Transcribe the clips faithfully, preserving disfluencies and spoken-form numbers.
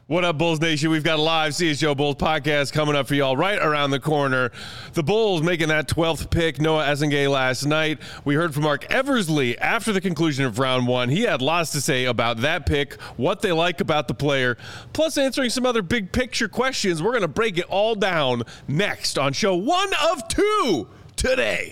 What up, Bulls Nation? We've got a live C H G O Bulls podcast coming up for y'all right around the corner. The Bulls making that twelfth pick, Noah Essengay, last night. We heard from Mark Eversley after the conclusion of round one. He had lots to say about that pick, what they like about the player, plus answering some other big picture questions. We're going to break it all down next on show one of two today.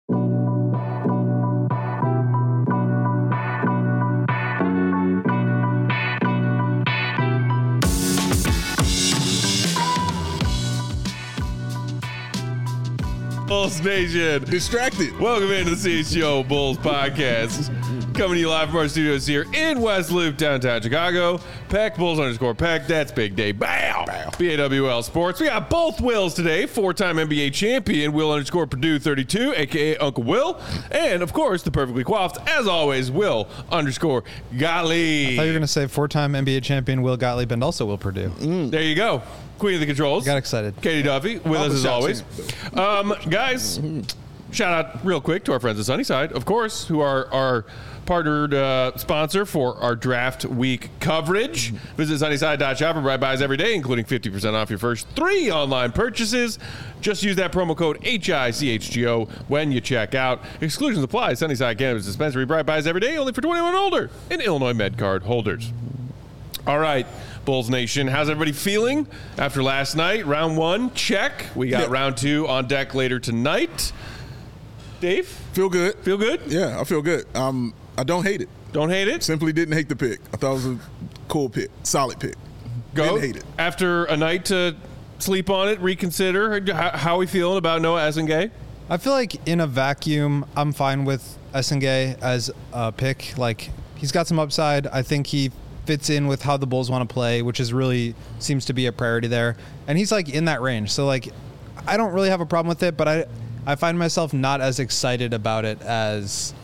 Bulls Nation. Distracted. Welcome into the C H G O Bulls podcast. Coming to you live from our studios here in West Loop, downtown Chicago. Peck, Bulls underscore Peck. That's Big Day. Bow. Bow. B A W L Sports. We got both Wills today. Four-time N B A champion, Will underscore Purdue thirty-two, a k a. Uncle Will. And, of course, the perfectly coiffed, as always, Will underscore Gottlieb. I thought you were going to say four-time N B A champion Will Gottlieb and also Will Purdue. Mm. There you go. Queen of the controls. Got excited. Katie Duffy with us as always. Um, guys, shout out real quick to our friends at Sunnyside, of course, who are our partnered uh, sponsor for our draft week coverage. Visit sunnyside dot shop and buy buys every day, including fifty percent off your first three online purchases. Just use that promo code H I C H G O when you check out. Exclusions apply. Sunnyside Cannabis Dispensary, bright buys every day, only for twenty-one and older, and Illinois MedCard holders. All right, Bulls Nation, how's everybody feeling after last night? Round one, check. We got yeah. round two on deck later tonight. Dave? Feel good. Feel good? Yeah, I feel good. Um, I don't hate it. Don't hate it? Simply didn't hate the pick. I thought it was a cool pick. Solid pick. Go. Didn't hate it. After a night to sleep on it, reconsider, how, how are we feeling about Noah Essengay? I feel like in a vacuum, I'm fine with Essengay as a pick. Like, he's got some upside. I think he fits in with how the Bulls want to play, which is really seems to be a priority there. And he's like in that range. So like, I don't really have a problem with it, but I, I find myself not as excited about it as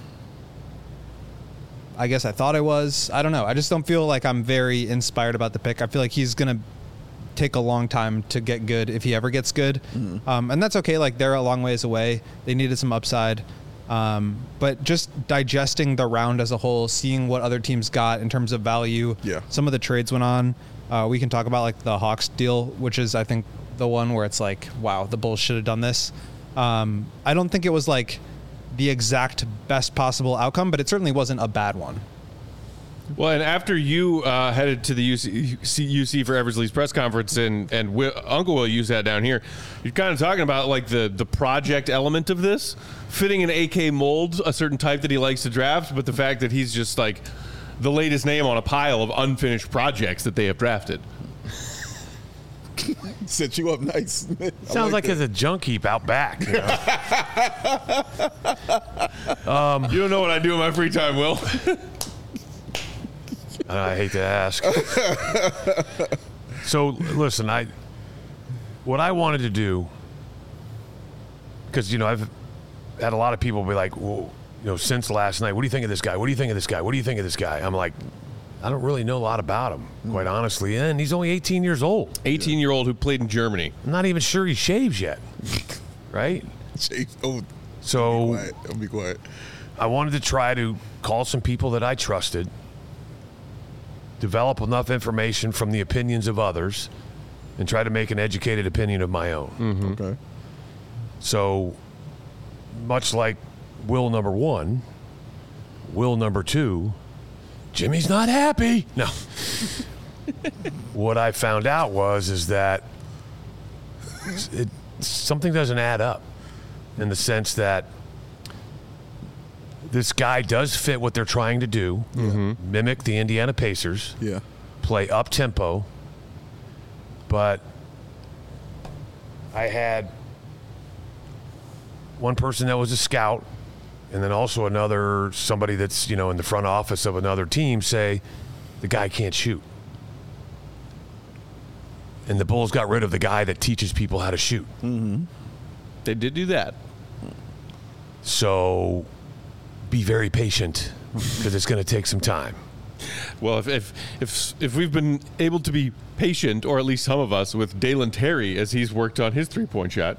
I guess I thought I was. I don't know. I just don't feel like I'm very inspired about the pick. I feel like he's going to take a long time to get good if he ever gets good. Mm. Um, and that's okay. Like, they're a long ways away. They needed some upside. Um, but just digesting the round as a whole, seeing what other teams got in terms of value. Yeah. Some of the trades went on. Uh, we can talk about like the Hawks deal, which is, I think, the one where it's like, wow, the Bulls should have done this. Um, I don't think it was like the exact best possible outcome, but it certainly wasn't a bad one. Well, and after you uh, headed to the U C, U C for Eversley's press conference, and and Will, Uncle Will, you sat down here, you're kind of talking about like the the project element of this, fitting an A K mold, a certain type that he likes to draft, but the fact that he's just like the latest name on a pile of unfinished projects that they have drafted. Set you up nice. Sounds like, like it's a junk heap out back. You know? um, you don't know what I do in my free time, Will. I hate to ask. So, listen, I what I wanted to do, because, you know, I've had a lot of people be like, well, you know, since last night, what do you think of this guy? What do you think of this guy? What do you think of this guy? I'm like, I don't really know a lot about him, quite honestly. And he's only eighteen years old. eighteen-year-old who played in Germany. I'm not even sure he shaves yet, right? Shave. Oh, so be quiet. I'll be quiet. I wanted to try to call some people that I trusted, develop enough information from the opinions of others, and try to make an educated opinion of my own. Mm-hmm. Okay. So, much like Will number one, Will number two, Jimmy's not happy. No. What I found out was is that it, something doesn't add up in the sense that this guy does fit what they're trying to do, mm-hmm. mimic the Indiana Pacers, yeah, play up-tempo, but I had one person that was a scout and then also another, somebody that's, you know, in the front office of another team say, the guy can't shoot. And the Bulls got rid of the guy that teaches people how to shoot. Mm-hmm. They did do that. So be very patient because it's going to take some time. Well, if, if if if we've been able to be patient, or at least some of us, with Dalen Terry as he's worked on his three-point shot,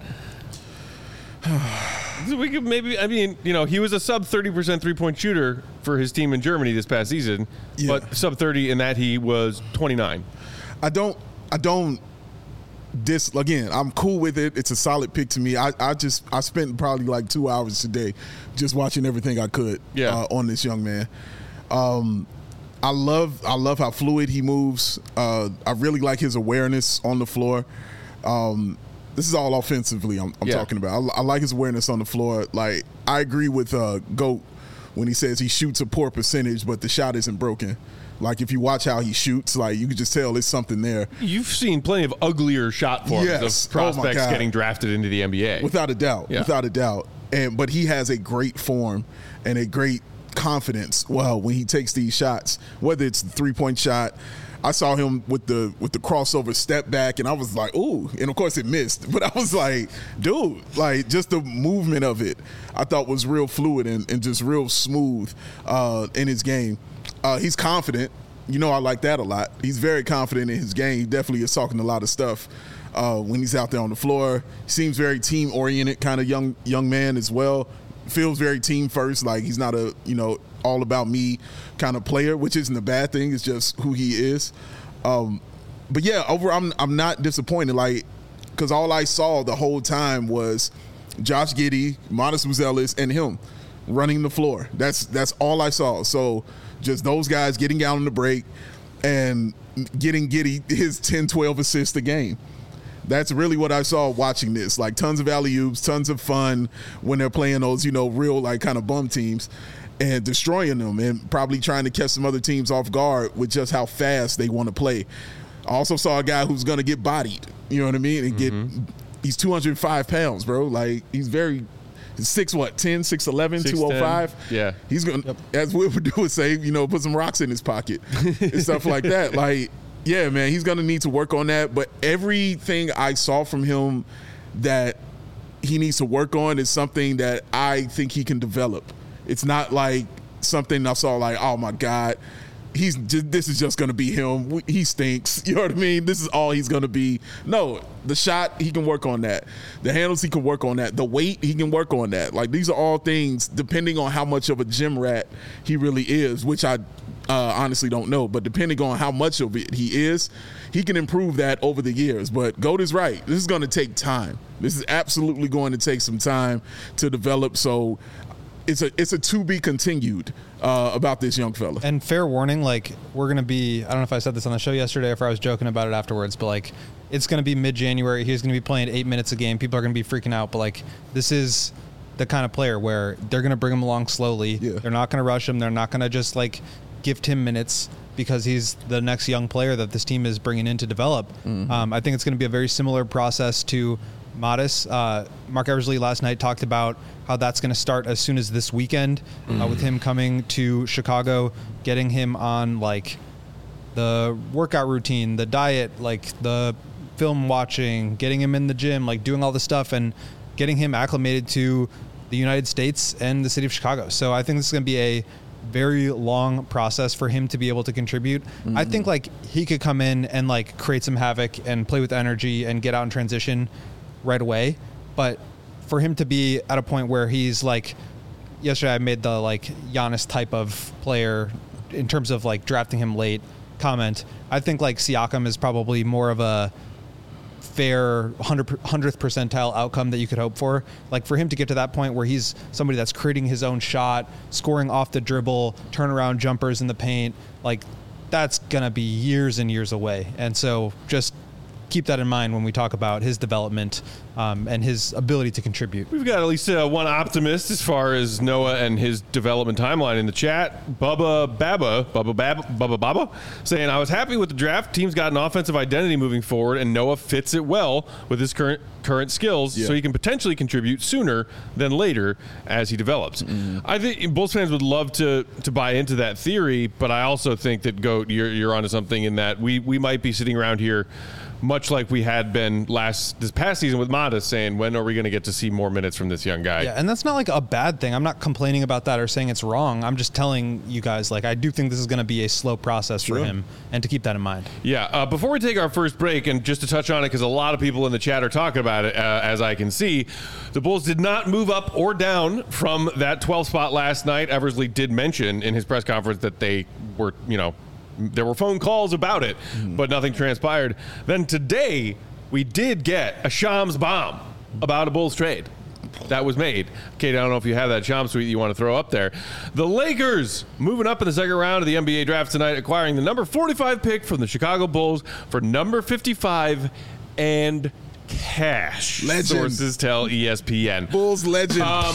we could maybe, I mean, you know, he was a sub thirty percent three-point shooter for his team in Germany this past season, yeah. but sub thirty in that he was twenty-nine. I don't. I don't. Dis again. I'm cool with it. It's a solid pick to me. I, I just I spent probably like two hours today just watching everything I could yeah. uh, on this young man. Um, I love I love how fluid he moves. Uh, I really like his awareness on the floor. Um, this is all offensively I'm, I'm yeah. talking about. I, I like his awareness on the floor. Like I agree with uh, Goat when he says he shoots a poor percentage, but the shot isn't broken. Like if you watch how he shoots, like you can just tell there's something there. You've seen plenty of uglier shot forms yes. of prospects oh getting drafted into the N B A. Without a doubt. Yeah. Without a doubt. And but he has a great form and a great confidence. Well, when he takes these shots, whether it's the three-point shot, I saw him with the with the crossover step back, and I was like, ooh. And of course it missed. But I was like, dude, like just the movement of it, I thought was real fluid and, and just real smooth uh, in his game. Uh, he's confident. You know, I like that a lot. He's very confident in his game. He definitely is talking a lot of stuff uh, when he's out there on the floor. Seems very team-oriented kind of young young man as well. Feels very team first. Like he's not a, you know, all about me kind of player, which isn't a bad thing. It's just who he is. Um, but yeah, over I'm I'm not disappointed. Like, because all I saw the whole time was Josh Giddey, Modest Mouzelis, and him running the floor. That's that's all I saw. So just those guys getting out on the break and getting Giddey his ten, twelve assists a game. That's really what I saw watching this. Like tons of alley-oops, tons of fun when they're playing those, you know, real like kind of bum teams and destroying them and probably trying to catch some other teams off guard with just how fast they want to play. I also saw a guy who's going to get bodied, you know what I mean? And mm-hmm. get he's two hundred five pounds, bro. Like he's very six what ten, six eleven, two oh five. Yeah, he's gonna yep. as we would do would say, you know, put some rocks in his pocket and stuff like that. Like, yeah, man, he's gonna need to work on that. But everything I saw from him that he needs to work on is something that I think he can develop. It's not like something I saw like, oh my God, he's just, this is just going to be him. He stinks. You know what I mean? This is all he's going to be. No, the shot, he can work on that. The handles, he can work on that. The weight, he can work on that. Like these are all things depending on how much of a gym rat he really is, which I uh, honestly don't know. But depending on how much of it he is, he can improve that over the years. But Goat is right. This is going to take time. This is absolutely going to take some time to develop. So it's a it's a to be continued uh, about this young fella. And fair warning, like we're gonna be. I don't know if I said this on the show yesterday or if I was joking about it afterwards, but like it's gonna be mid-January. He's gonna be playing eight minutes a game. People are gonna be freaking out. But like this is the kind of player where they're gonna bring him along slowly. Yeah. They're not gonna rush him. They're not gonna just like gift him minutes because he's the next young player that this team is bringing in to develop. Mm-hmm. Um, I think it's gonna be a very similar process to Modest. Uh, Mark Eversley last night talked about how that's going to start as soon as this weekend mm. uh, with him coming to Chicago, getting him on like the workout routine, the diet, like the film watching, getting him in the gym, like doing all the stuff and getting him acclimated to the United States and the city of Chicago. So I think this is going to be a very long process for him to be able to contribute. Mm-hmm. I think like he could come in and like create some havoc and play with energy and get out in transition right away. But for him to be at a point where he's like, yesterday I made the like Giannis type of player in terms of like drafting him late comment. I think like Siakam is probably more of a fair hundredth percentile outcome that you could hope for. Like for him to get to that point where he's somebody that's creating his own shot, scoring off the dribble, turnaround jumpers in the paint, like that's going to be years and years away. And so just keep that in mind when we talk about his development um, and his ability to contribute. We've got at least uh, one optimist as far as Noah and his development timeline in the chat. Bubba Baba, Bubba Baba, Bubba Baba, saying, I was happy with the draft. Team's got an offensive identity moving forward, and Noah fits it well with his current current skills, yeah. so he can potentially contribute sooner than later as he develops. Mm-hmm. I think Bulls fans would love to to buy into that theory, but I also think that, Goat, you're, you're onto something in that we, we might be sitting around here much like we had been last this past season with Modest, saying, when are we going to get to see more minutes from this young guy? Yeah, and that's not like a bad thing. I'm not complaining about that or saying it's wrong. I'm just telling you guys, like, I do think this is going to be a slow process sure. for him, and to keep that in mind. Yeah, uh, before we take our first break, and just to touch on it, because a lot of people in the chat are talking about it, uh, as I can see, the Bulls did not move up or down from that twelfth spot last night. Eversley did mention in his press conference that they were, you know, there were phone calls about it, mm. but nothing transpired. Then today, we did get a Shams bomb about a Bulls trade that was made. Kate, I don't know if you have that Shams tweet you want to throw up there. The Lakers moving up in the second round of the N B A draft tonight, acquiring the number forty-five pick from the Chicago Bulls for number fifty-five and cash. Legend. Sources tell E S P N. Bulls legend. Um,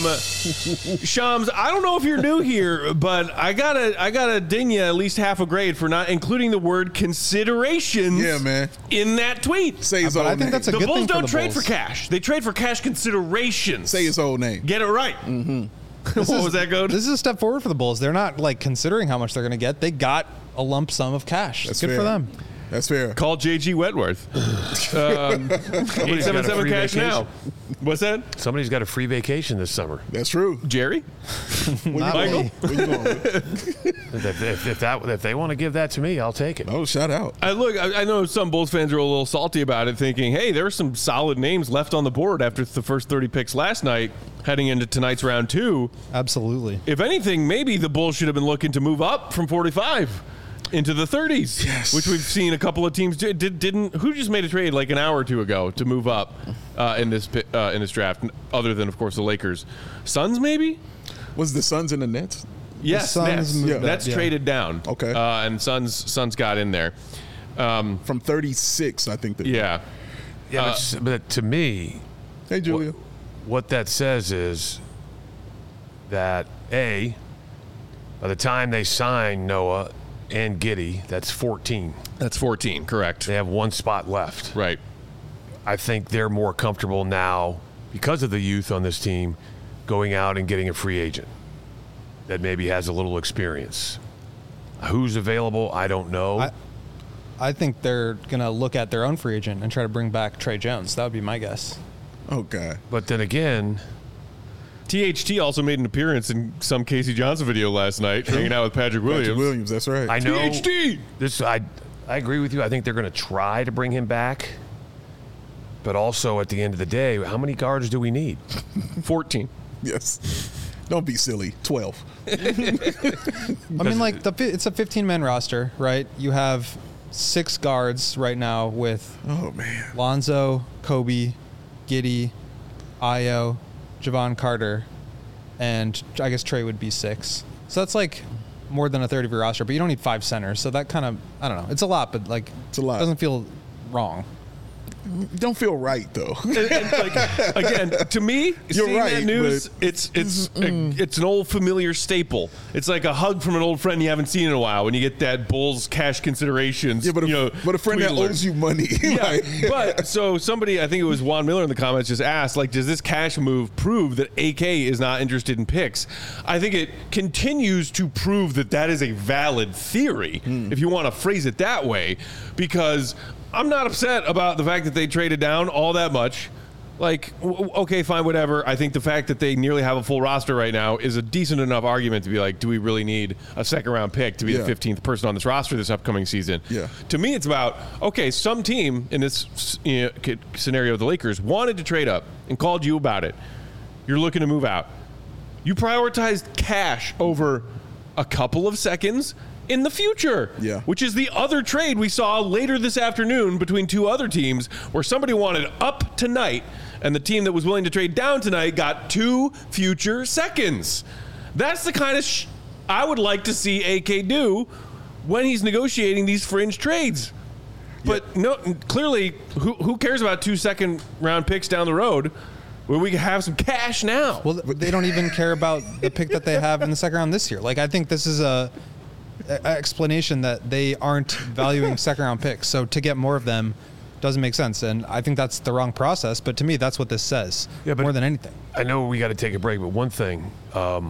Shams, I don't know if you're new here, but I gotta, I gotta ding you at least half a grade for not including the word considerations. Yeah, man. In that tweet. Say his but old I think name. that's a the good Bulls thing for don't the trade Bulls. for cash. They trade for cash considerations. Say his whole name. Get it right. Mm-hmm. What was that, Goat? This is a step forward for the Bulls. They're not like considering how much they're going to get. They got a lump sum of cash. That's Good fair. for them. That's fair. Call J G Wentworth. um, eight seven seven cash now. What's that? Somebody's got a free vacation this summer. That's true. Jerry? Not Michael? me. Where you going with? If, if, if that if they want to give that to me, I'll take it. Oh, shout out. I look. I, I know some Bulls fans are a little salty about it, thinking, "Hey, there are some solid names left on the board after the first thirty picks last night, heading into tonight's round two." Absolutely. If anything, maybe the Bulls should have been looking to move up from forty-five into the thirties, Yes. which we've seen a couple of teams do. Did, didn't who just made a trade like an hour or two ago to move up uh, in this pi- uh, in this draft? Other than, of course, the Lakers, Suns maybe. Was the Suns and the Nets? Yes, Suns Nets. moved up, Nets yeah. traded down. Okay. uh, and Suns Suns got in there. Um, From thirty-six, I think. That, yeah. Yeah, Uh, but, s- but to me, Hey, Julia. what that says is that A, by the time they sign Noah and Giddey, that's fourteen. That's fourteen, correct. They have one spot left. Right. I think they're more comfortable now because of the youth on this team going out and getting a free agent that maybe has a little experience. Who's available, I don't know. I, I think they're going to look at their own free agent and try to bring back Trey Jones. That would be my guess. Oh, God. but then again, T H T also made an appearance in some Casey Johnson video last night, hanging out with Patrick Williams. Patrick Williams, that's right. I know T H T! this. I I agree with you. I think they're going to try to bring him back, but also at the end of the day, how many guards do we need? fourteen. Yes. Don't be silly. twelve. I mean, like, the fi- it's a fifteen-man roster, right? You have six guards right now with Oh, man. Lonzo, Kobe, Giddey, Ayo, Javon Carter, and I guess Trey would be six. So that's like more than a third of your roster, but you don't need five centers. So that kind of, I don't know. It's a lot, but like, It's a lot. It doesn't feel wrong. Don't feel right, though. And, and, like, again, to me, You're seeing right, that news, but- it's it's a, it's an old familiar staple. It's like a hug from an old friend you haven't seen in a while when you get that Bulls cash considerations. Yeah, but a, you know, but a friend that tweet alert. owes you money. Yeah, Like- but so somebody, I think it was Juan Miller in the comments, just asked, like, does this cash move prove that A K is not interested in picks? I think it continues to prove that that is a valid theory, if you want to phrase it that way, because I'm not upset about the fact that they traded down all that much. Like, w- okay, fine, whatever. I think the fact that they nearly have a full roster right now is a decent enough argument to be like, do we really need a second round pick to be Yeah. the fifteenth person on this roster this upcoming season? Yeah. To me, it's about, okay, some team in this you know, c- scenario, the Lakers, wanted to trade up and called you about it. You're looking to move out. You prioritized cash over a couple of seconds in the future, Yeah. which is the other trade we saw later this afternoon between two other teams where somebody wanted up tonight and the team that was willing to trade down tonight got two future seconds. That's the kind of sh- I would like to see A K do when he's negotiating these fringe trades. But no, clearly, who, who cares about two second round picks down the road when we can have some cash now? Well, they don't even care about the pick that they have in the second round this year. Like, I think this is a, a explanation that they aren't valuing second round picks. So to get more of them doesn't make sense. And I think that's the wrong process. But to me, that's what this says Yeah, but- more than anything. I know we got to take a break, but one thing, um,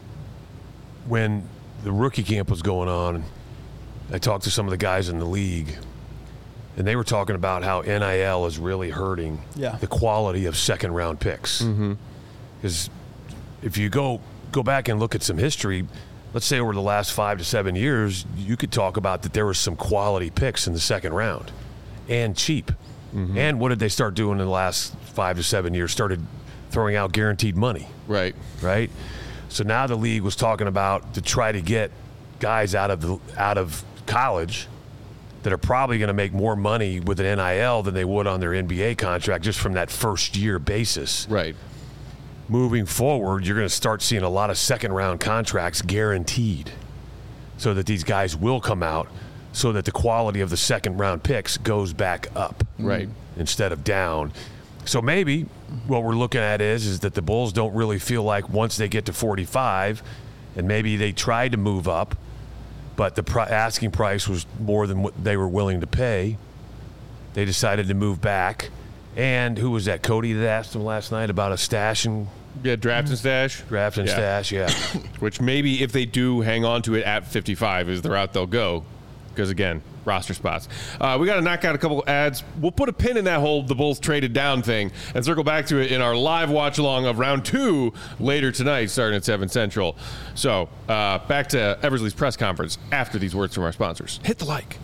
when the rookie camp was going on, I talked to some of the guys in the league, and they were talking about how N I L is really hurting Yeah. the quality of second round picks. Because if you go go back and look at some history, let's say over the last five to seven years, you could talk about that there was some quality picks in the second round and cheap. And what did they start doing in the last five to seven years? Started throwing out guaranteed money, Right. right? So now the league was talking about to try to get guys out of the out of college that are probably going to make more money with an N I L than they would on their N B A contract just from that first year basis. Right. Moving forward, you're going to start seeing a lot of second round contracts guaranteed so that these guys will come out so that the quality of the second round picks goes back up. Right. Instead of down. So maybe what we're looking at is, is that the Bulls don't really feel like once they get to forty-five and maybe they tried to move up, but the pri- asking price was more than what they were willing to pay. They decided to move back. And who was that? Cody that asked him last night about a stash and Yeah, draft and stash. draft and Yeah. stash. Yeah. Which maybe if they do hang on to it at fifty-five is the route they'll go. Because, again, roster spots. Uh, we got to knock out a couple ads. We'll put a pin in that whole the Bulls traded down thing and circle back to it in our live watch-along of round two later tonight, starting at seven Central. So, uh, back to Eversley's press conference after these words from our sponsors. Hit the like.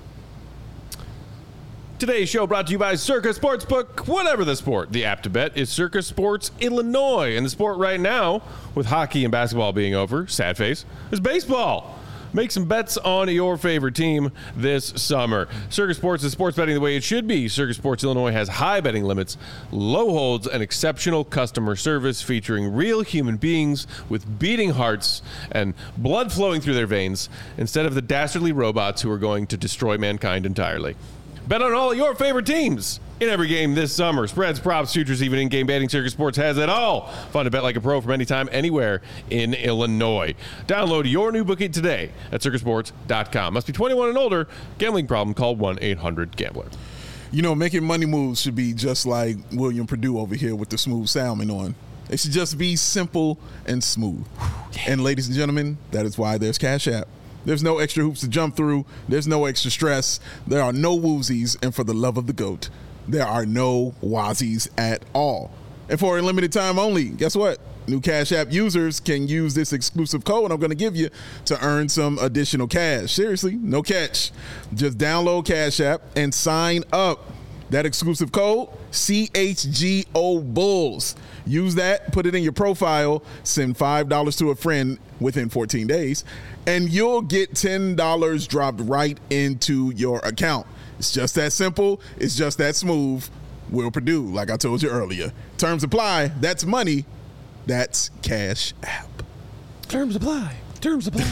Today's show brought to you by Circa Sportsbook. Whatever the sport, the app to bet is Circa Sports Illinois. And the sport right now, with hockey and basketball being over, sad face, is baseball. Make some bets on your favorite team this summer. Circa Sports is sports betting the way it should be. Circa Sports Illinois has high betting limits, low holds, and exceptional customer service featuring real human beings with beating hearts and blood flowing through their veins instead of the dastardly robots who are going to destroy mankind entirely. Bet on all your favorite teams in every game this summer. Spreads, props, futures, even in-game betting. Circa Sports has it all. Fun to bet like a pro from anytime, anywhere in Illinois. Download your new bookie today at circa sports dot com. Must be twenty-one and older. Gambling problem? Call one eight hundred gambler. You know, making money moves should be just like William Purdue over here with the smooth salmon on. It should just be simple and smooth. And ladies and gentlemen, that is why there's Cash App. There's no extra hoops to jump through. There's no extra stress. There are no woozies. And for the love of the GOAT, there are no wazies at all. And for a limited time only, guess what? New Cash App users can use this exclusive code I'm going to give you to earn some additional cash. Seriously, no catch. Just download Cash App and sign up. That exclusive code, C H G O Bulls. Use that, put it in your profile, send five dollars to a friend within fourteen days, and you'll get ten dollars dropped right into your account. It's just that simple. It's just that smooth. Will Purdue, like I told you earlier. Terms apply. That's money. That's Cash App. Terms apply. Terms apply.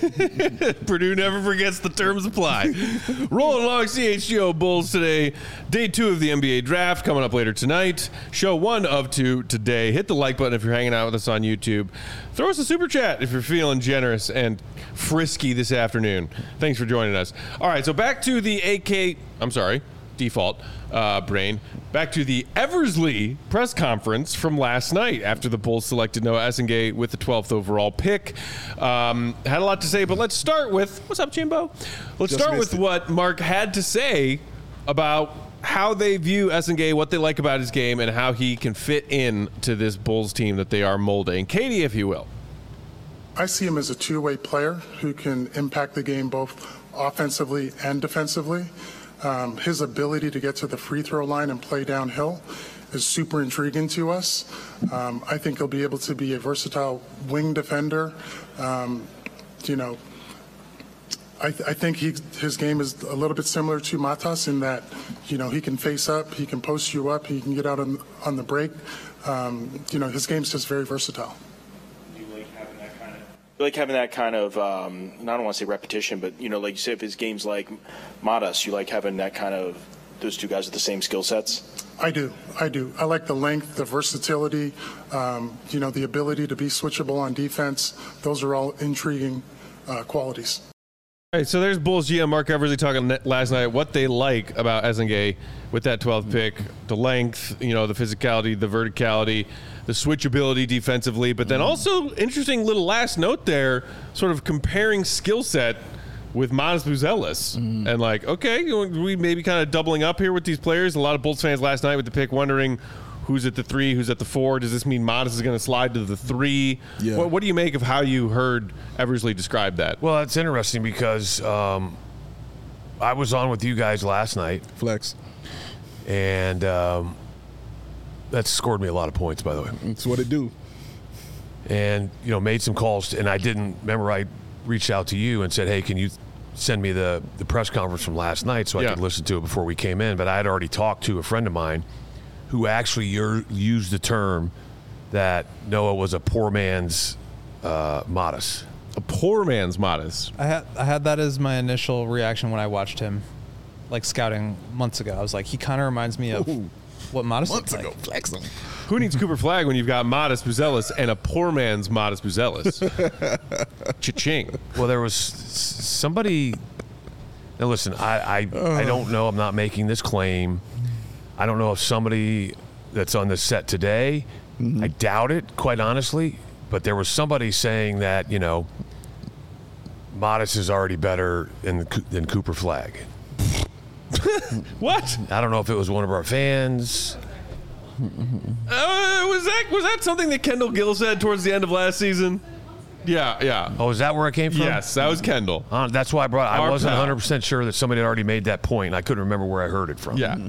Purdue never forgets the terms apply. Rolling along C H G O Bulls today. Day two of the N B A draft coming up later tonight. Show one of two today. Hit the like button if you're hanging out with us on YouTube. Throw us a super chat if you're feeling generous and frisky this afternoon. Thanks for joining us. All right, so back to the A K, I'm sorry, default uh, brain. Back to the Eversley press conference from last night after the Bulls selected Noah Essengate with the twelfth overall pick. Um, had a lot to say, but let's start with, what's up, Jimbo? Let's Just start with missed it. what Mark had to say about how they view Essengate, what they like about his game, and how he can fit in to this Bulls team that they are molding. Katie, if you will. I see him as a two-way player who can impact the game both offensively and defensively. Um, his ability to get to the free throw line and play downhill is super intriguing to us. Um, I think he'll be able to be a versatile wing defender. Um, you know, I, th- I think he, his game is a little bit similar to Matas in that, you know, he can face up, he can post you up, he can get out on, on the break. Um, you know, his game's just very versatile. Like having that kind of, um, I don't want to say repetition, but, you know, like you say, if his game's like Matas, you like having that kind of, those two guys with the same skill sets? I do. I do. I like the length, the versatility, um, you know, the ability to be switchable on defense. Those are all intriguing uh, qualities. All right, so there's Bulls G M Mark Eversley talking net- last night what they like about Essengate with that twelfth pick, the length, you know, the physicality, the verticality, the switchability defensively, but then also interesting little last note there, sort of comparing skill set with Matas Buzelis. Mm. And like, okay, you know, we maybe kind of doubling up here with these players. A lot of Bulls fans last night with the pick wondering who's at the three, who's at the four. Does this mean Matas is going to slide to the three? Yeah. What, what do you make of how you heard Eversley describe that? Well, it's interesting because um, I was on with you guys last night. Flex. And um, that scored me a lot of points, by the way. That's what it do. And, you know, made some calls. And I didn't, remember I reached out to you and said, hey, can you send me the, the press conference from last night so I Yeah. could listen to it before we came in, but I had already talked to a friend of mine who actually ur- used the term that Noah was a poor man's uh, Modest. A poor man's Modest. I had I had that as my initial reaction when I watched him, like scouting months ago. I was like, he kind of reminds me of Ooh. what Modest Months looked ago, like. flex him. Who needs Cooper Flag when you've got Modest Buzelis and a poor man's Modest Buzelis? Cha-ching. Well, there was s- somebody. Now, listen, I I, I don't know. I'm not making this claim. I don't know if somebody that's on the set today. Mm-hmm. I doubt it, quite honestly. But there was somebody saying that you know, Modest is already better than than Cooper Flag. What? I don't know if it was one of our fans. Uh, was that was that something that Kendall Gill said towards the end of last season? Yeah, yeah. Oh, is that where it came from? Yes, that was Kendall. Uh, that's why I brought. I Our wasn't pal. one hundred percent sure that somebody had already made that point. And I couldn't remember where I heard it from. Yeah.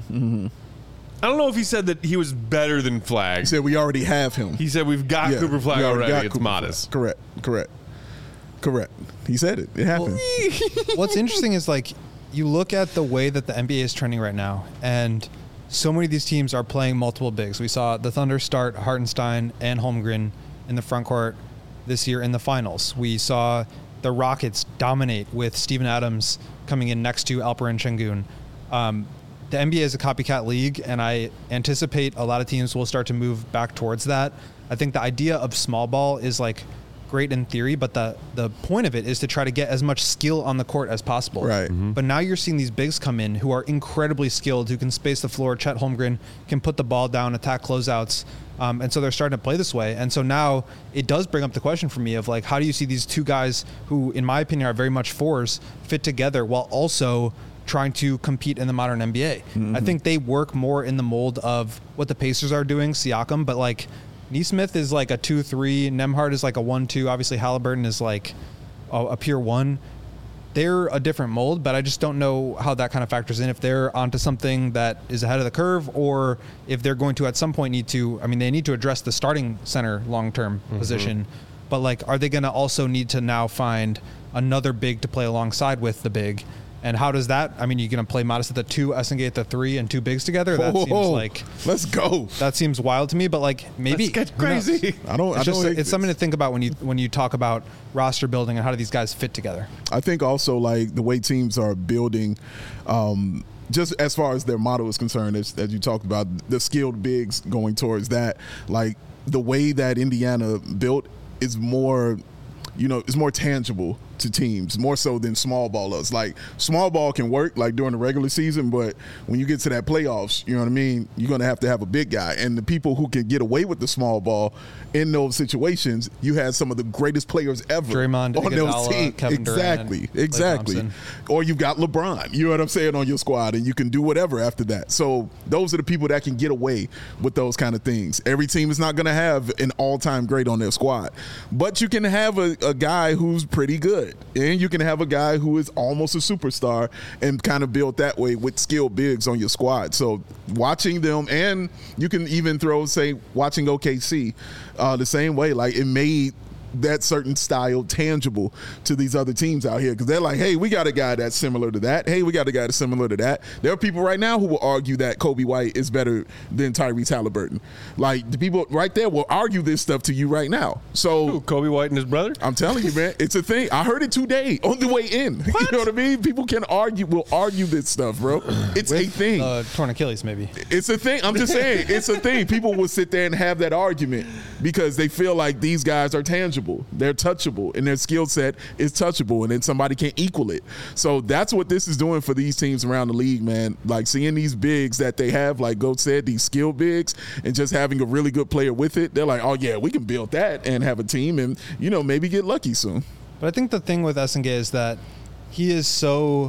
I don't know if he said that he was better than Flag. He said we already have him. He said we've got Yeah, Cooper Flag we already. got It's Cooper Modest. Flag. Correct. Correct. Correct. He said it. It happened. What's interesting is like you look at the way that the N B A is trending right now, and so many of these teams are playing multiple bigs. We saw the Thunder start Hartenstein and Holmgren in the front court this year in the finals. We saw the Rockets dominate with Steven Adams coming in next to Alperen Şengün. Um, the N B A is a copycat league, and I anticipate a lot of teams will start to move back towards that. I think the idea of small ball is like great in theory, but the the point of it is to try to get as much skill on the court as possible. Right. Mhm. But now you're seeing these bigs come in who are incredibly skilled, who can space the floor. Chet Holmgren can put the ball down, attack closeouts. Um, and so they're starting to play this way. And so now it does bring up the question for me of like, how do you see these two guys who, in my opinion, are very much fours fit together while also trying to compete in the modern N B A? Mm-hmm. I think they work more in the mold of what the Pacers are doing, Siakam, but like Nesmith is like a two three, Nembhard is like a one two, obviously Halliburton is like a, a pure one. They're a different mold, but I just don't know how that kind of factors in, if they're onto something that is ahead of the curve or if they're going to at some point need to, I mean, they need to address the starting center long-term mm-hmm. position, but like, are they going to also need to now find another big to play alongside with the big? And how does that, I mean, you're going to play Modest at the two, Essengate at the three, and two bigs together? That Whoa, seems whoa. like, Let's go. that seems wild to me, but like maybe Let's get who knows? crazy. I don't. I It's don't. just, hate it's something this. to think about when you when you talk about roster building and how do these guys fit together. I think also like the way teams are building, um, just as far as their model is concerned, as, as you talked about, the skilled bigs going towards that, like the way that Indiana built is more, you know, is more tangible to teams, more so than small ball does. Like small ball can work like during the regular season, but when you get to that playoffs, you know what I mean, you're going to have to have a big guy. And the people who can get away with the small ball in those situations, you had some of the greatest players ever Draymond, on those Iguodala, teams. Kevin Durant, Exactly, and Klay exactly. Thompson. Or you've got LeBron, you know what I'm saying, on your squad, and you can do whatever after that. So those are the people that can get away with those kind of things. Every team is not going to have an all-time great on their squad, but you can have a, a guy who's pretty good, and you can have a guy who is almost a superstar and kind of build that way with skilled bigs on your squad. So watching them, and you can even throw, say, watching O K C uh, the same way, like it made that certain style tangible to these other teams out here, because they're like, hey, we got a guy that's similar to that. Hey, we got a guy that's similar to that. There are people right now who will argue that Kobe White is better than Tyrese Halliburton. Like the people right there will argue this stuff to you right now. So Ooh, Kobe White and his brother? I'm telling you, man, it's a thing. I heard it today on the way in. You know what I mean? People can argue, will argue this stuff, bro. It's a thing. Uh, torn Achilles, maybe. It's a thing. I'm just saying, it's a thing. People will sit there and have that argument because they feel like these guys are tangible. They're touchable, and their skill set is touchable, and then somebody can equal it. So that's what this is doing for these teams around the league, man. Like seeing these bigs that they have, like Goat said, these skill bigs, and just having a really good player with it. They're like, oh yeah, we can build that and have a team, and you know maybe get lucky soon. But I think the thing with Essengate is that he is so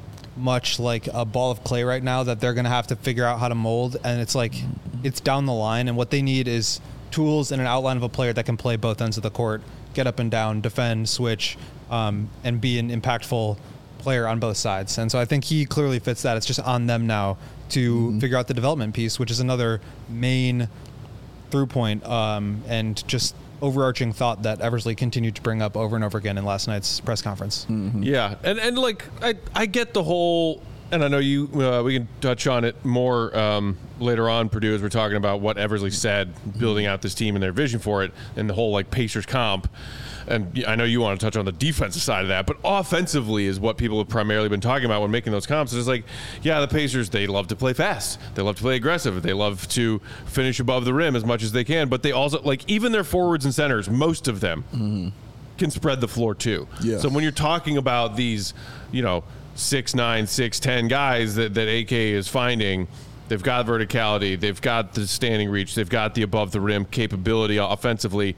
much like a ball of clay right now that they're going to have to figure out how to mold, and it's like it's down the line, and what they need is tools and an outline of a player that can play both ends of the court, get up and down, defend, switch, um, and be an impactful player on both sides. And so I think he clearly fits that. It's just on them now to mm-hmm. figure out the development piece, which is another main through point um, and just overarching thought that Eversley continued to bring up over and over again in last night's press conference. Mm-hmm. Yeah, and and like I I get the whole, and I know you uh, we can touch on it more um, later on, Purdue, as we're talking about what Eversley said, building out this team and their vision for it, and the whole like Pacers comp. And I know you want to touch on the defensive side of that, but offensively is what people have primarily been talking about when making those comps. It's like, yeah, the Pacers, they love to play fast. They love to play aggressive. They love to finish above the rim as much as they can. But they also, like, even their forwards and centers, most of them mm-hmm. can spread the floor too. Yeah. So when you're talking about these, you know, six nine, six ten guys that, that A K is finding, they've got verticality, they've got the standing reach, they've got the above the rim capability offensively.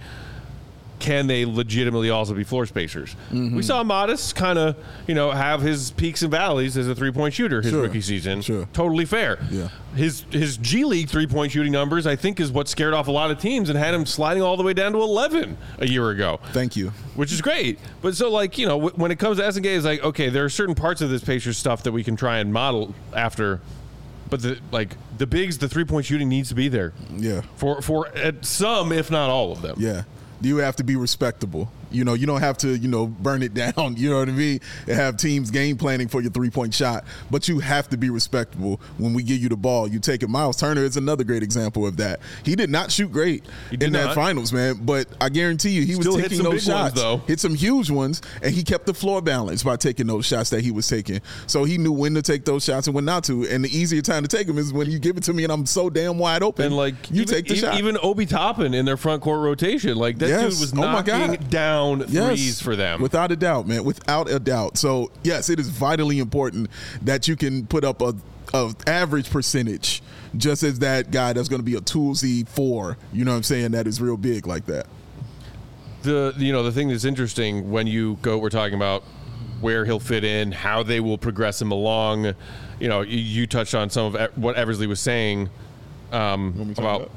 Can they legitimately also be floor spacers? Mm-hmm. We saw Modest kind of, you know, have his peaks and valleys as a three-point shooter his sure. rookie season. Sure. Totally fair. Yeah. His his G League three-point shooting numbers, I think, is what scared off a lot of teams and had him sliding all the way down to eleven a year ago. Thank you. Which is great. But so, like, you know, w- when it comes to S N K, it's like, okay, there are certain parts of this Pacers stuff that we can try and model after. But, the like, the bigs, the three-point shooting needs to be there. Yeah. For, for uh, some, if not all of them. Yeah. You have to be respectable. You know, you don't have to, you know, burn it down, you know what I mean, and have teams game planning for your three-point shot. But you have to be respectable when we give you the ball. You take it. Miles Turner is another great example of that. He did not shoot great in that not. finals, man, but I guarantee you he Still was hit taking some those big shots. ones, though. Hit some huge ones, and he kept the floor balanced by taking those shots that he was taking. So he knew when to take those shots and when not to. And the easier time to take them is when you give it to me and I'm so damn wide open. And, like, you even, take the even, shot. Even Obi Toppin in their front court rotation, like, that Yes. dude was Oh, my knocking God. down Yes. threes for them. Without a doubt, man. Without a doubt. So, yes, it is vitally important that you can put up a, a average percentage just as that guy that's going to be a toolsy four, you know what I'm saying, that is real big like that. The you know the thing that's interesting when you go, we're talking about where he'll fit in, how they will progress him along. You know, you, you touched on some of what Eversley was saying um, about, about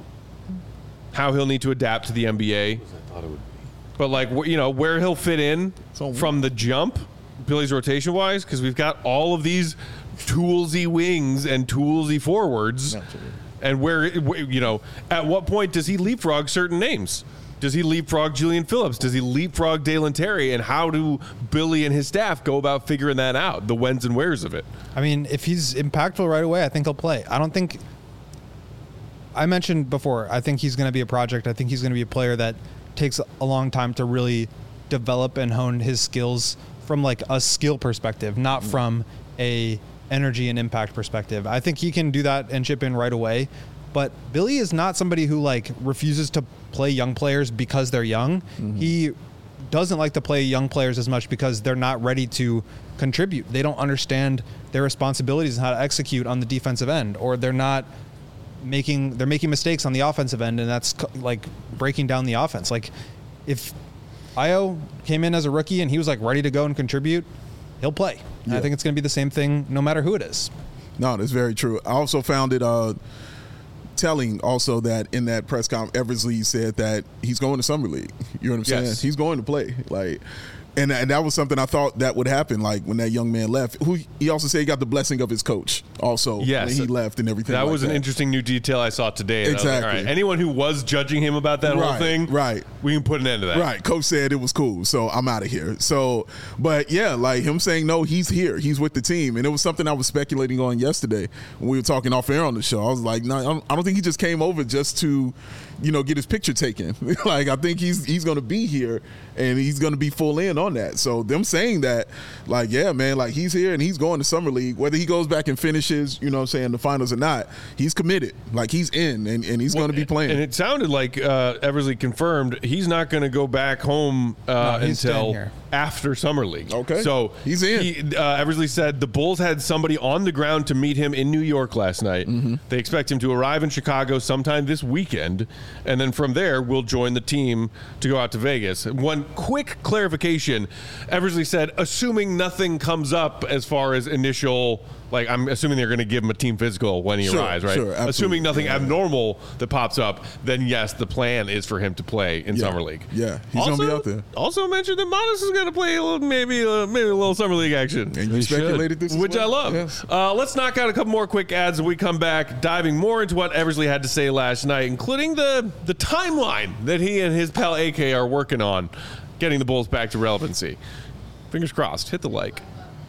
how he'll need to adapt to the N B A. But, like, you know, where he'll fit in from the jump, Billy's rotation wise, because we've got all of these toolsy wings and toolsy forwards. Absolutely. And where, you know, at what point does he leapfrog certain names? Does he leapfrog Julian Phillips? Does he leapfrog Dalen Terry? And how do Billy and his staff go about figuring that out, the whens and wheres of it? I mean, if he's impactful right away, I think he'll play. I don't think – I mentioned before, I think he's going to be a project. I think he's going to be a player that takes a long time to really develop and hone his skills from, like, a skill perspective, not from a energy and impact perspective. I think he can do that and chip in right away. But Billy is not somebody who, like, refuses to play young players because they're young. Mm-hmm. He doesn't like to play young players as much because they're not ready to contribute. They don't understand their responsibilities and how to execute on the defensive end, or they're not making they're making mistakes on the offensive end, and that's like breaking down the offense. Like, if Ayo came in as a rookie and he was like ready to go and contribute, he'll play. Yeah. I think it's going to be the same thing no matter who it is. No, that's very true. I also found it uh, telling also that in that press conference, Eversley said that he's going to Summer League. You know what I'm saying? Yes. He's going to play. Like, and, and that was something I thought that would happen, like, when that young man left. Who he also said he got the blessing of his coach also yes. when he left and everything That like was an that. interesting new detail I saw today. And Exactly. I was like, all right, anyone who was judging him about that Right, whole thing, right. we can put an end to that. Right. Coach said it was cool, so I'm out of here. So, but yeah, like him saying, no, he's here. He's with the team. And it was something I was speculating on yesterday when we were talking off air on the show. I was like, no, I don't think he just came over just to, you know, get his picture taken. Like, I think he's he's going to be here and he's going to be full in on that. So them saying that, like, yeah, man, like he's here and he's going to Summer League, whether he goes back and finishes, you know what I'm saying, the finals or not, he's committed. Like, he's in and, and he's Well, going to be playing. And it sounded like uh, Eversley confirmed he's not going to go back home uh, No, he's until staying here. after Summer League. Okay. So He's in. He, uh, Eversley said the Bulls had somebody on the ground to meet him in New York last night. Mm-hmm. They expect him to arrive in Chicago sometime this weekend, and then from there we'll join the team to go out to Vegas. One quick clarification question. Eversley said, assuming nothing comes up as far as initial, like I'm assuming they're going to give him a team physical when he Sure, arrives, right? sure, absolutely. Assuming nothing Yeah. abnormal that pops up, then yes, the plan is for him to play in Yeah. Summer League. Yeah, he's also, gonna be out there. Also mentioned that Modest is going to play a little, maybe uh, maybe a little Summer League action. And you He speculated this, as Which I well? love. Yes. Uh, let's knock out a couple more quick ads and we come back, diving more into what Eversley had to say last night, including the the timeline that he and his pal A K are working on, getting the Bulls back to relevancy. Fingers crossed. Hit the like.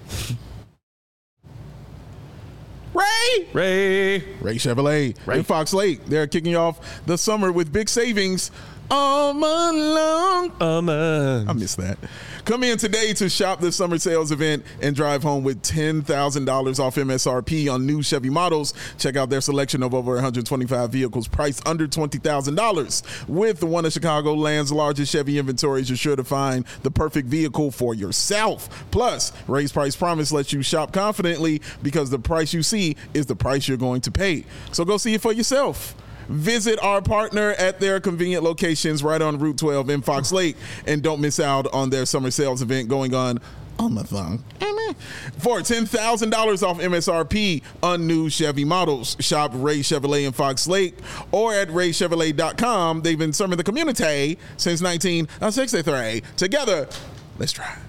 Ray! Ray. Ray Chevrolet Ray. in Fox Lake. They're kicking off the summer with big savings all month long. Oh, man. I miss that. Come in today to shop the summer sales event and drive home with ten thousand dollars off M S R P on new Chevy models. Check out their selection of over one hundred twenty-five vehicles priced under twenty thousand dollars. With one of Chicagoland's largest Chevy inventories, you're sure to find the perfect vehicle for yourself. Plus, Ray's Price Promise lets you shop confidently because the price you see is the price you're going to pay. So go see it for yourself. Visit our partner at their convenient locations right on Route twelve in Fox Lake, and don't miss out on their summer sales event going on on the thong. For ten thousand dollars off M S R P on new Chevy models. Shop Ray Chevrolet in Fox Lake or at ray chevrolet dot com. They've been serving the community since nineteen sixty-three. Together, let's drive.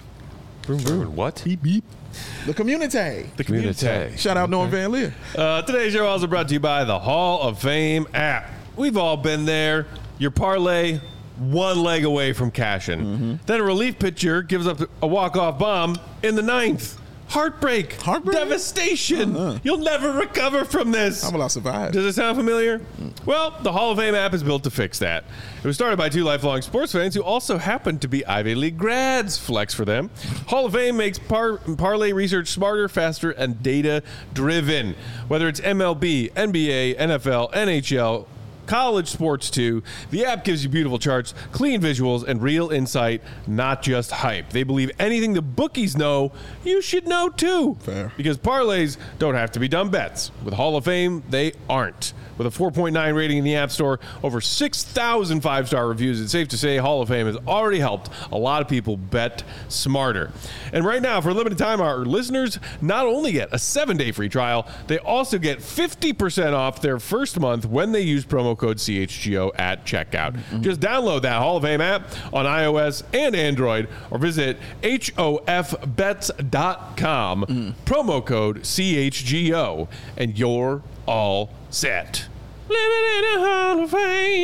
What? Beep, beep. The community. The community. Shout out Norm Van Leer. Uh, today's show also brought to you by the Hall of Fame app. We've all been there. Your parlay one leg away from cashing. Mm-hmm. Then a relief pitcher gives up a walk-off bomb in the ninth. Heartbreak. Heartbreak? Devastation. Uh-huh. You'll never recover from this. How will I survive? Does it sound familiar? Well, the Hall of Fame app is built to fix that. It was started by two lifelong sports fans who also happen to be Ivy League grads. Flex for them. Hall of Fame makes par- parlay research smarter, faster, and data-driven. Whether it's M L B, N B A, N F L, N H L, college sports too, the app gives you beautiful charts, clean visuals, and real insight, not just hype. They believe anything the bookies know, you should know too. Fair. Because parlays don't have to be dumb bets. With Hall of Fame, they aren't. With a four point nine rating in the App Store, over six thousand five-star reviews, it's safe to say Hall of Fame has already helped a lot of people bet smarter. And right now, for a limited time, our listeners not only get a seven-day free trial, they also get fifty percent off their first month when they use promo code C H G O at checkout. Mm-hmm. Just download that Hall of Fame app on iOS and Android or visit H O F bets dot com, mm. promo code C H G O, and you're all set. Living in a Hall of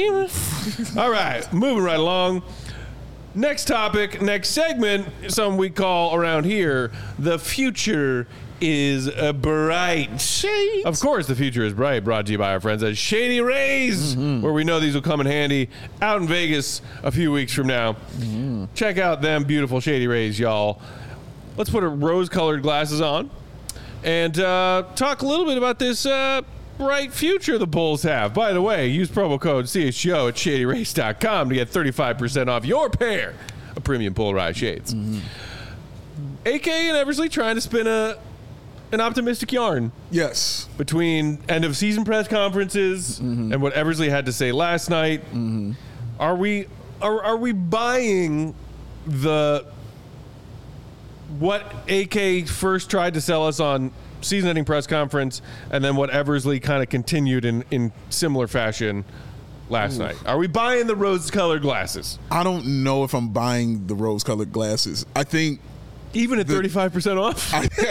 Fame. All right, moving right along. Next topic, next segment, some we call around here, the future is uh, bright. Shades. Of course, the future is bright, brought to you by our friends at Shady Rays, mm-hmm. where we know these will come in handy out in Vegas a few weeks from now. Mm-hmm. Check out them beautiful Shady Rays, y'all. Let's put our rose-colored glasses on and uh, talk a little bit about this uh, bright future the Bulls have. By the way, use promo code C H G O at shady race dot com to get thirty-five percent off your pair of premium polarized shades. Mm-hmm. A K and Eversley trying to spin a an optimistic yarn. Yes. Between end of season press conferences mm-hmm. and what Eversley had to say last night. Mm-hmm. Are we are, are we buying the what A K first tried to sell us on season-ending press conference, and then what Eversley kind of continued in, in similar fashion last Ooh. night? Are we buying the rose-colored glasses? I don't know if I'm buying the rose-colored glasses. I think even at thirty-five percent off.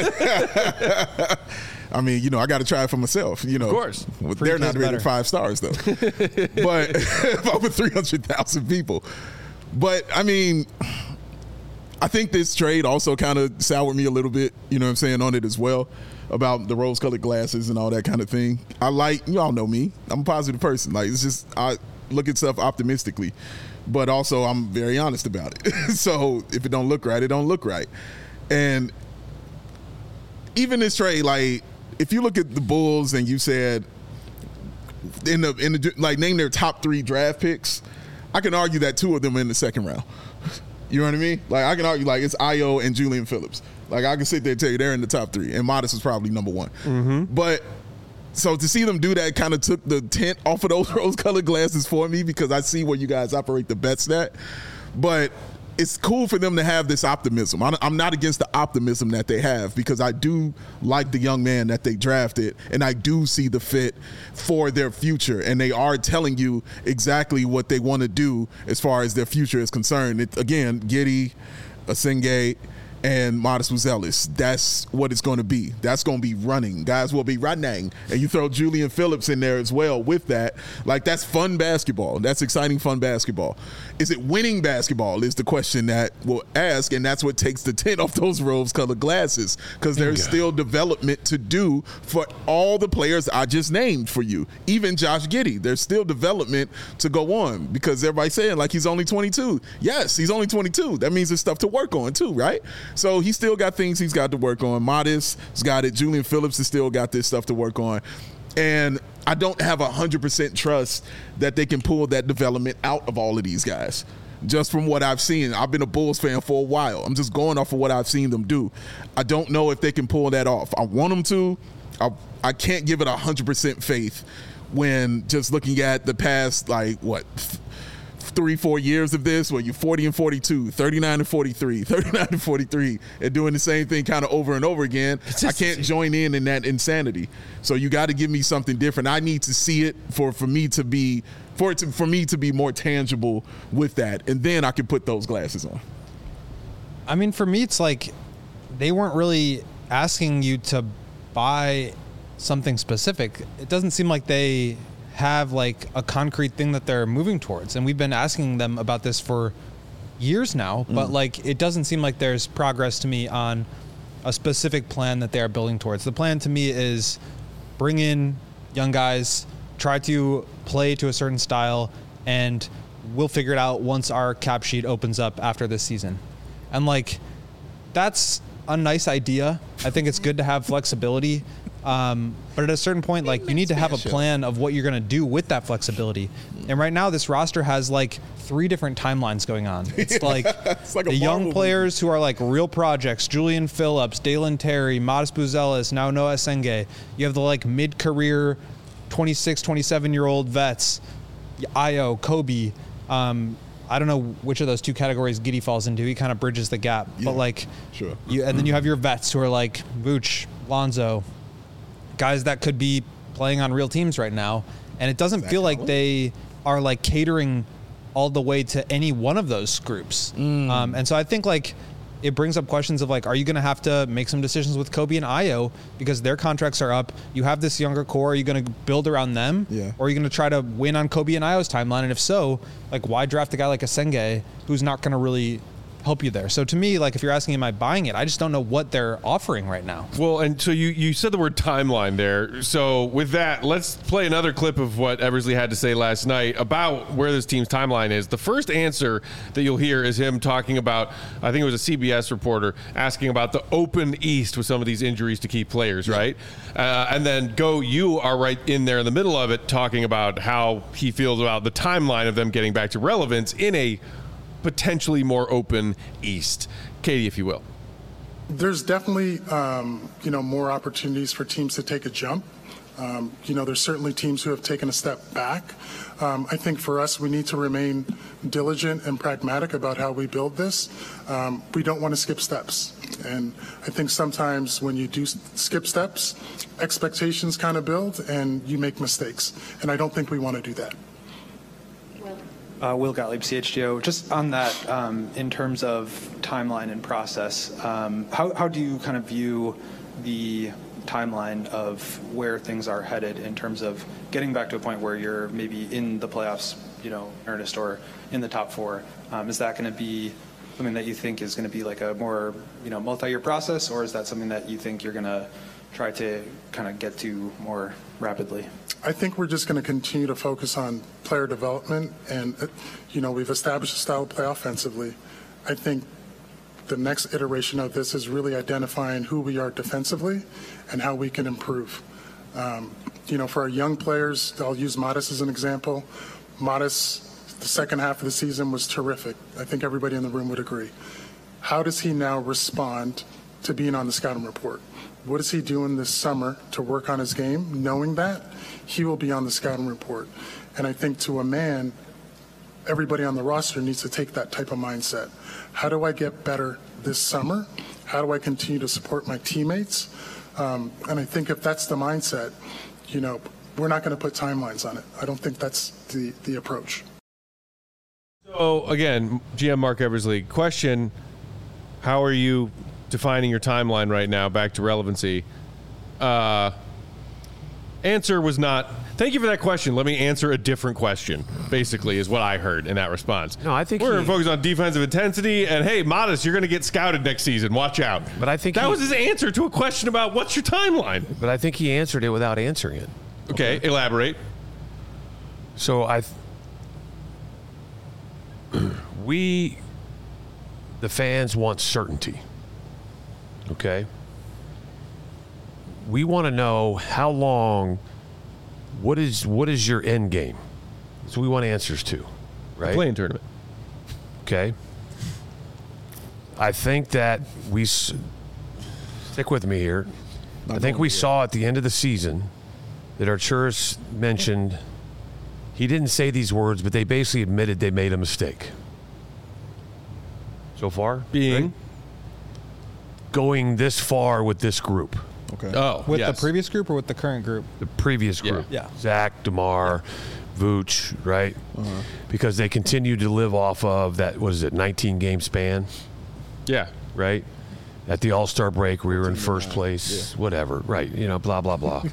I, I mean, you know, I got to try it for myself. You know, of course, they're not rated five stars though. But if I'm with three hundred thousand people, but I mean, I think this trade also kind of soured me a little bit. You know what I'm saying on it as well. About the rose-colored glasses and all that kind of thing. I like, y'all know me. I'm a positive person. Like, it's just, I look at stuff optimistically, but also I'm very honest about it. So if it don't look right, it don't look right. And even this trade, like, if you look at the Bulls and you said, in the, in the, like, name their top three draft picks, I can argue that two of them are in the second round. You know what I mean? Like, I can argue, like, it's Ayo and Julian Phillips. Like, I can sit there and tell you they're in the top three, and Modest is probably number one. Mm-hmm. But so to see them do that kind of took the tint off of those rose-colored glasses for me because I see where you guys operate the bets at. But it's cool for them to have this optimism. I'm not against the optimism that they have because I do like the young man that they drafted, and I do see the fit for their future. And they are telling you exactly what they want to do as far as their future is concerned. It, again, Giddey, Asenge, and Modest Buzelis. That's what it's going to be. That's going to be running. Guys will be running. And you throw Julian Phillips in there as well with that. Like, that's fun basketball. That's exciting, fun basketball. Is it winning basketball is the question that we'll ask, and that's what takes the tint off those rose-colored glasses because there's yeah. still development to do for all the players I just named for you. Even Josh Giddey. There's still development to go on because everybody's saying, like, he's only twenty-two. Yes, he's only twenty-two. That means there's stuff to work on too, right? So he's still got things he's got to work on. Modest has got it. Julian Phillips has still got this stuff to work on. And I don't have one hundred percent trust that they can pull that development out of all of these guys. Just from what I've seen. I've been a Bulls fan for a while. I'm just going off of what I've seen them do. I don't know if they can pull that off. I want them to. I, I can't give it one hundred percent faith when just looking at the past, like, what, three, four years of this where you're forty and forty-two, thirty-nine and forty-three, thirty-nine and forty-three, and doing the same thing kind of over and over again. I can't join in in that insanity. So you got to give me something different. I need to see it for, for me to be for it to, for me to be more tangible with that, and then I can put those glasses on. I mean, for me, it's like they weren't really asking you to buy something specific. It doesn't seem like they have like a concrete thing that they're moving towards, and we've been asking them about this for years now, but mm. like it doesn't seem like there's progress to me on a specific plan that they are building towards. The plan to me is bring in young guys, try to play to a certain style, and we'll figure it out once our cap sheet opens up after this season. And like that's a nice idea. I think it's good to have flexibility. Um, but at a certain point, like you need to have a plan of what you're going to do with that flexibility. And right now this roster has like three different timelines going on. It's yeah, like, it's like the young players movie. Who are like real projects, Julian Phillips, Dalen Terry, Modest Buzelis, now Noah Asenge. You have the like mid-career twenty-six, twenty-seven year old vets, Ayo, Kobe. Um, I don't know which of those two categories Giddey falls into. He kind of bridges the gap. Yeah, but like, sure. You, and then you have your vets who are like Vooch, Lonzo, guys that could be playing on real teams right now. And it doesn't feel like they are like catering all the way to any one of those groups. Mm. Um, and so I think like it brings up questions of like, are you going to have to make some decisions with Kobe and Ayo because their contracts are up? You have this younger core. Are you going to build around them? Yeah. Or are you going to try to win on Kobe and Ayo's timeline? And if so, like why draft a guy like Asenge who's not going to really help you there? So to me, like if you're asking, am I buying it? I just don't know what they're offering right now. Well, and so you, you said the word timeline there. So with that, let's play another clip of what Eversley had to say last night about where this team's timeline is. The first answer that you'll hear is him talking about, I think it was a C B S reporter asking about the open East with some of these injuries to key players, yeah. right? Uh, and then Go, you are right in there in the middle of it talking about how he feels about the timeline of them getting back to relevance in a potentially more open East. Katie, if you will. There's definitely, um, you know, more opportunities for teams to take a jump. Um, you know, there's certainly teams who have taken a step back. Um, I think for us, we need to remain diligent and pragmatic about how we build this. Um, we don't want to skip steps. And I think sometimes when you do skip steps, expectations kind of build and you make mistakes. And I don't think we want to do that. Uh, Will Gottlieb, C H G O. Just on that, um, in terms of timeline and process, um, how, how do you kind of view the timeline of where things are headed in terms of getting back to a point where you're maybe in the playoffs, you know, earnest, or in the top four? Um, is that going to be something that you think is going to be like a more, you know, multi-year process, or is that something that you think you're going to try to kind of get to more rapidly? I think we're just going to continue to focus on player development, and, you know, we've established a style to play offensively. I think the next iteration of this is really identifying who we are defensively and how we can improve. Um, you know, for our young players, I'll use Modest as an example. Modest, the second half of the season was terrific. I think everybody in the room would agree. How does he now respond to being on the scouting report? What is he doing this summer to work on his game? Knowing that, he will be on the scouting report. And I think to a man, everybody on the roster needs to take that type of mindset. How do I get better this summer? How do I continue to support my teammates? Um, and I think if that's the mindset, you know, we're not going to put timelines on it. I don't think that's the, the approach. So, again, G M Mark Eversley, question, how are you defining your timeline right now, back to relevancy? Uh, answer was not, thank you for that question. Let me answer a different question, basically, is what I heard in that response. No, I think we're he, focused on defensive intensity, and hey, Modest, you're going to get scouted next season. Watch out. But I think that he, was his answer to a question about what's your timeline. But I think he answered it without answering it. Okay, okay. Elaborate. So I, we, the fans want certainty. Okay. We want to know how long. What is what is your end game? So we want answers to, right? Playing tournament. Okay. I think that we stick with me here. I think we saw at the end of the season that Arturas mentioned. He didn't say these words, but they basically admitted they made a mistake. So far, being right? Going this far with this group. Okay. Oh, with yes. the previous group or with the current group? The previous group. Yeah. yeah. Zach, DeMar, yeah. Vooch, right? Uh-huh. Because they continue to live off of that, what is it, nineteen game span? Yeah. Right? At the All-Star break, we were in first place, yeah. whatever. Right. You know, blah, blah, blah.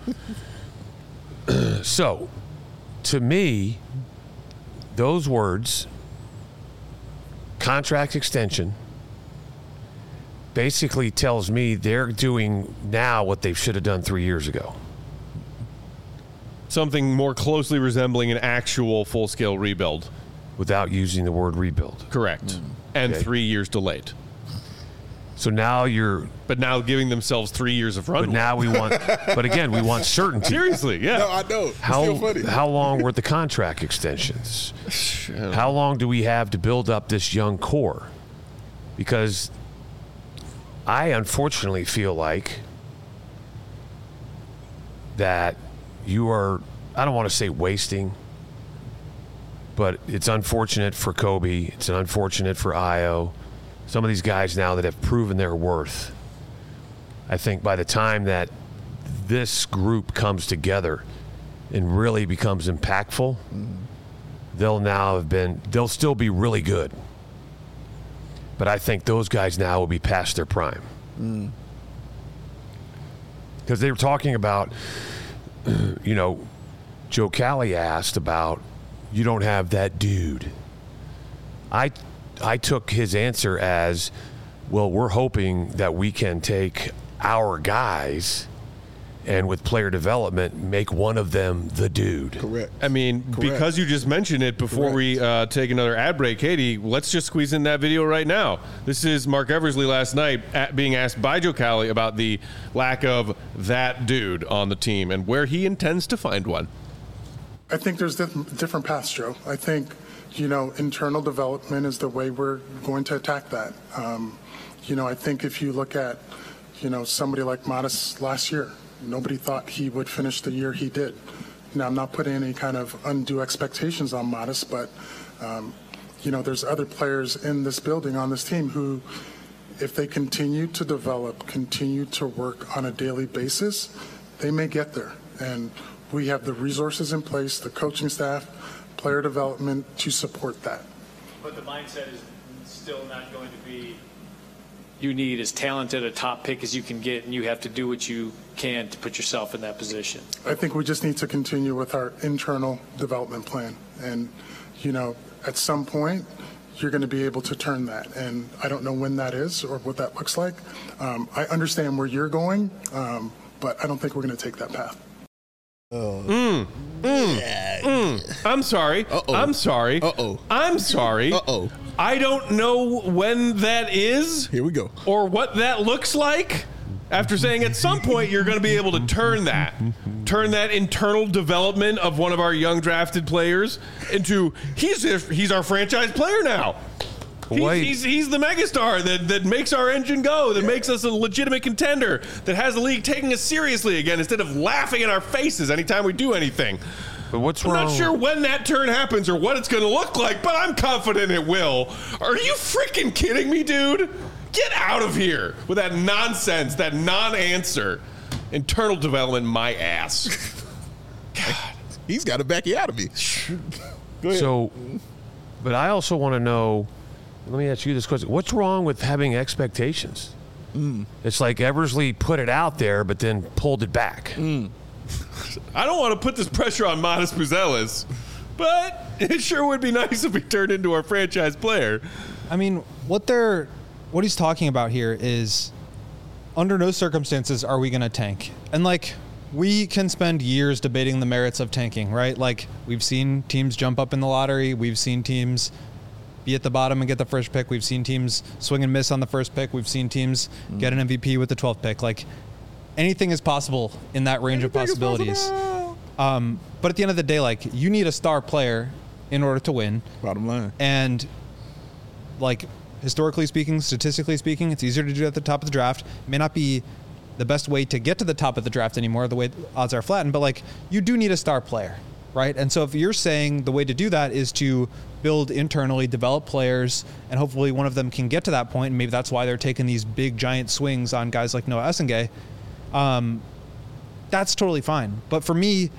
So, to me, those words, contract extension, basically tells me they're doing now what they should have done three years ago. Something more closely resembling an actual full-scale rebuild. Without using the word rebuild. Correct. Mm. And okay. three years delayed. So now you're... But now giving themselves three years of runway. But now we want... But again, we want certainty. Seriously, yeah. No, I know. It's how, still funny. How long were the contract extensions? How long do we have to build up this young core? Because I unfortunately feel like that you are... I don't want to say wasting, but it's unfortunate for Kobe. It's unfortunate for Ayo. Some of these guys now that have proven their worth. I think by the time that this group comes together and really becomes impactful, mm-hmm. they'll now have been, they'll still be really good. But I think those guys now will be past their prime. Because mm. they were talking about, you know, Joe Cali asked about, you don't have that dude. I I took his answer as, well, we're hoping that we can take our guys and with player development make one of them the dude. Correct. I mean, Correct. Because you just mentioned it before Correct. we uh, take another ad break, Katie, let's just squeeze in that video right now. This is Mark Eversley last night at being asked by Joe Cali about the lack of that dude on the team and where he intends to find one. I think there's different paths, Joe. I think, you know, internal development is the way we're going to attack that. Um, you know, I think if you look at, you know, somebody like Modest last year, nobody thought he would finish the year he did. Now, I'm not putting any kind of undue expectations on Modest, but, um, you know, there's other players in this building, on this team, who, if they continue to develop, continue to work on a daily basis, they may get there. And we have the resources in place, the coaching staff, player development to support that. But the mindset is still not going to be you need as talented a top pick as you can get, and you have to do what you can to put yourself in that position. I think we just need to continue with our internal development plan. And, you know, at some point, you're going to be able to turn that. And I don't know when that is or what that looks like. Um, I understand where you're going, um, but I don't think we're going to take that path. Oh. Mm, mm, mm. I'm sorry. Uh-oh. I'm sorry. Uh-oh. I'm sorry. Uh-oh. I don't know when that is. Here we go. Or what that looks like. After saying at some point you're going to be able to turn that, turn that internal development of one of our young drafted players into he's he's our franchise player now. He's, he's, he's the megastar that, that makes our engine go, that makes us a legitimate contender, that has the league taking us seriously again instead of laughing in our faces anytime we do anything. But what's I'm wrong? not sure when that turn happens or what it's going to look like, but I'm confident it will. Are you freaking kidding me, dude? Get out of here with that nonsense, that non-answer. Internal development, my ass. God. He's got to back you out of me. Go ahead. So, but I also want to know, let me ask you this question. What's wrong with having expectations? Mm. It's like Eversley put it out there, but then pulled it back. Mm. I don't want to put this pressure on Modest Buzelis, but it sure would be nice if he turned into our franchise player. I mean, what they're, what he's talking about here is, under no circumstances are we going to tank. And like, we can spend years debating the merits of tanking, right? Like, we've seen teams jump up in the lottery. We've seen teams be at the bottom and get the first pick. We've seen teams swing and miss on the first pick. We've seen teams mm. get an M V P with the twelfth pick. Like, anything is possible in that range anything of possibilities. Um, but at the end of the day, like, you need a star player in order to win. Bottom line. And, like, historically speaking, statistically speaking, it's easier to do at the top of the draft. It may not be the best way to get to the top of the draft anymore, the way odds are flattened, but like, you do need a star player, right? And so if you're saying the way to do that is to build internally, develop players, and hopefully one of them can get to that point, and maybe that's why they're taking these big giant swings on guys like Noah Essengay, um, that's totally fine. But for me,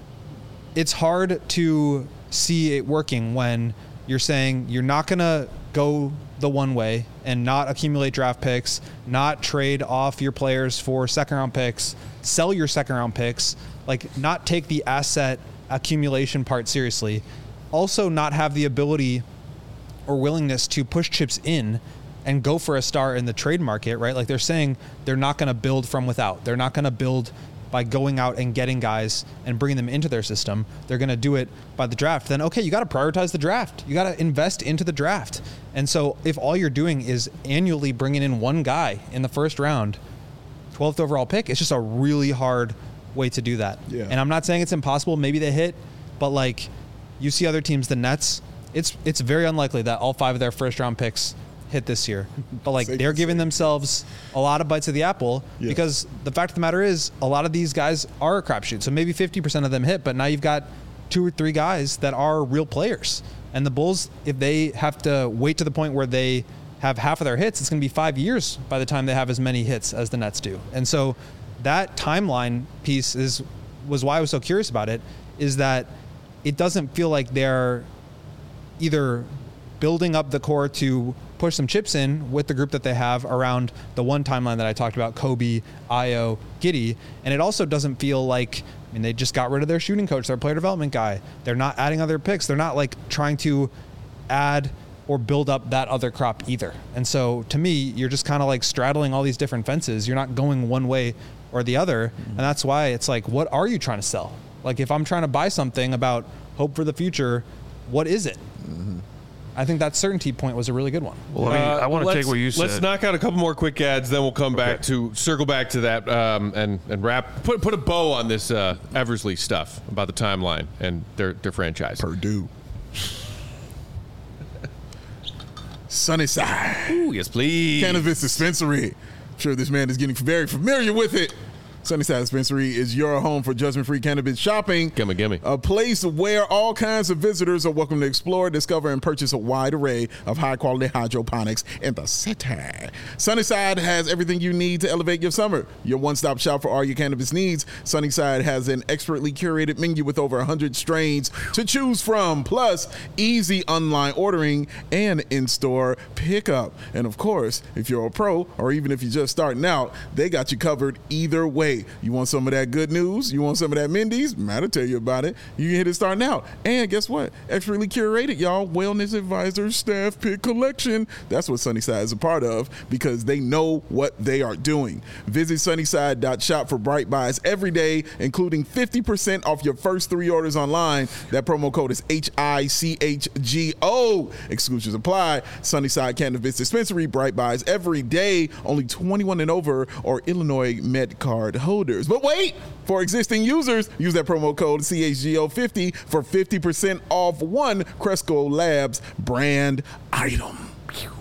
it's hard to see it working when you're saying you're not going to go the one way and not accumulate draft picks, not trade off your players for second round picks, sell your second round picks, like not take the asset accumulation part seriously. Also not have the ability or willingness to push chips in and go for a star in the trade market, right? Like they're saying they're not going to build from without. They're not going to build by going out and getting guys and bringing them into their system. They're going to do it by the draft. Then, okay, you got to prioritize the draft. You got to invest into the draft. And so if all you're doing is annually bringing in one guy in the first round, twelfth overall pick, it's just a really hard way to do that. Yeah. And I'm not saying it's impossible. Maybe they hit, but like you see other teams, the Nets, it's it's very unlikely that all five of their first round picks hit this year. But like they're giving themselves a lot of bites of the apple yeah. because the fact of the matter is a lot of these guys are a crapshoot. So maybe fifty percent of them hit, but now you've got two or three guys that are real players. And the Bulls, if they have to wait to the point where they have half of their hits, it's going to be five years by the time they have as many hits as the Nets do. And so that timeline piece is was why I was so curious about it, is that it doesn't feel like they're either building up the core to push some chips in with the group that they have around the one timeline that I talked about, Kobe, Ayo, Giddey. And it also doesn't feel like, I mean, they just got rid of their shooting coach, their player development guy. They're not adding other picks. They're not like trying to add or build up that other crop either. And so to me, you're just kind of like straddling all these different fences. You're not going one way or the other. Mm-hmm. And that's why it's like, what are you trying to sell? Like if I'm trying to buy something about hope for the future, what is it? Mm-hmm. I think that certainty point was a really good one. Well, I mean, uh, I want to take what you said. Let's knock out a couple more quick ads, then we'll come back okay. to circle back to that um, and and wrap put put a bow on this uh, Eversley stuff about the timeline and their their franchise. Purdue, Sunnyside. Ooh, yes, please. Cannabis dispensary. I'm sure this man is getting very familiar with it. Sunnyside Dispensary is your home for judgment-free cannabis shopping. Gimme, gimme. A place where all kinds of visitors are welcome to explore, discover, and purchase a wide array of high-quality hydroponics in the city. Sunnyside has everything you need to elevate your summer. Your one-stop shop for all your cannabis needs. Sunnyside has an expertly curated menu with over one hundred strains to choose from, plus easy online ordering and in-store pickup. And of course, if you're a pro or even if you're just starting out, they got you covered either way. You want some of that good news? You want some of that Mendy's? Man, I'll tell you about it. You can hit it starting out. And guess what? Expertly curated, y'all. Wellness advisors, staff pick collection. That's what Sunnyside is a part of because they know what they are doing. Visit sunnyside dot shop for bright buys every day, including fifty percent off your first three orders online. That promo code is H I C H G O. Exclusions apply. Sunnyside Cannabis Dispensary, bright buys every day. Only twenty-one and over or Illinois Med Card holders. But wait, for existing users, use that promo code C H G O fifty for fifty percent off one Cresco Labs brand item.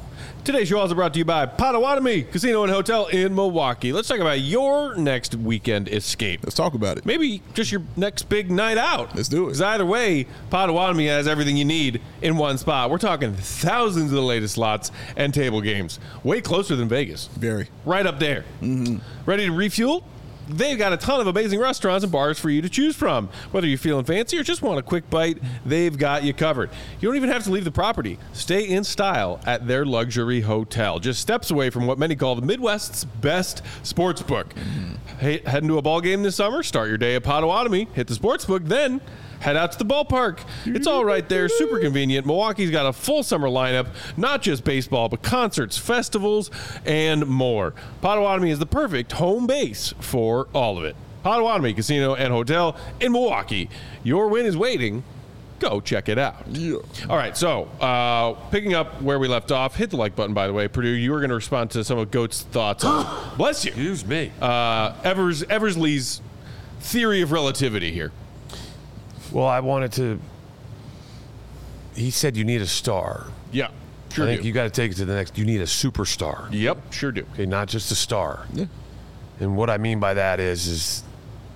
Today's show also brought to you by Potawatomi Casino and Hotel in Milwaukee. Let's talk about your next weekend escape. Let's talk about it. Maybe just your next big night out. Let's do it. Because either way, Potawatomi has everything you need in one spot. We're talking thousands of the latest slots and table games. Way closer than Vegas. Very. Right up there. Mm-hmm. Ready to refuel? They've got a ton of amazing restaurants and bars for you to choose from. Whether you're feeling fancy or just want a quick bite, they've got you covered. You don't even have to leave the property. Stay in style at their luxury hotel, just steps away from what many call the Midwest's best sports book. Mm-hmm. Hey, heading to a ball game this summer? Start your day at Potawatomi, hit the sports book, then head out to the ballpark. It's all right there, super convenient. Milwaukee's got a full summer lineup, not just baseball, but concerts, festivals, and more. Potawatomi is the perfect home base for all of it. Potawatomi Casino and Hotel in Milwaukee. Your win is waiting. Go check it out. Yeah. All right, so uh, picking up where we left off, hit the like button, by the way. Purdue, you were going to respond to some of Goat's thoughts on, bless you. Excuse me. Uh, Evers, Eversley's theory of relativity here. Well, I wanted to. He said you need a star. Yeah, sure I think do. you got to take it to the next. You need a superstar. Yep, sure do. Okay, not just a star. Yeah. And what I mean by that is, is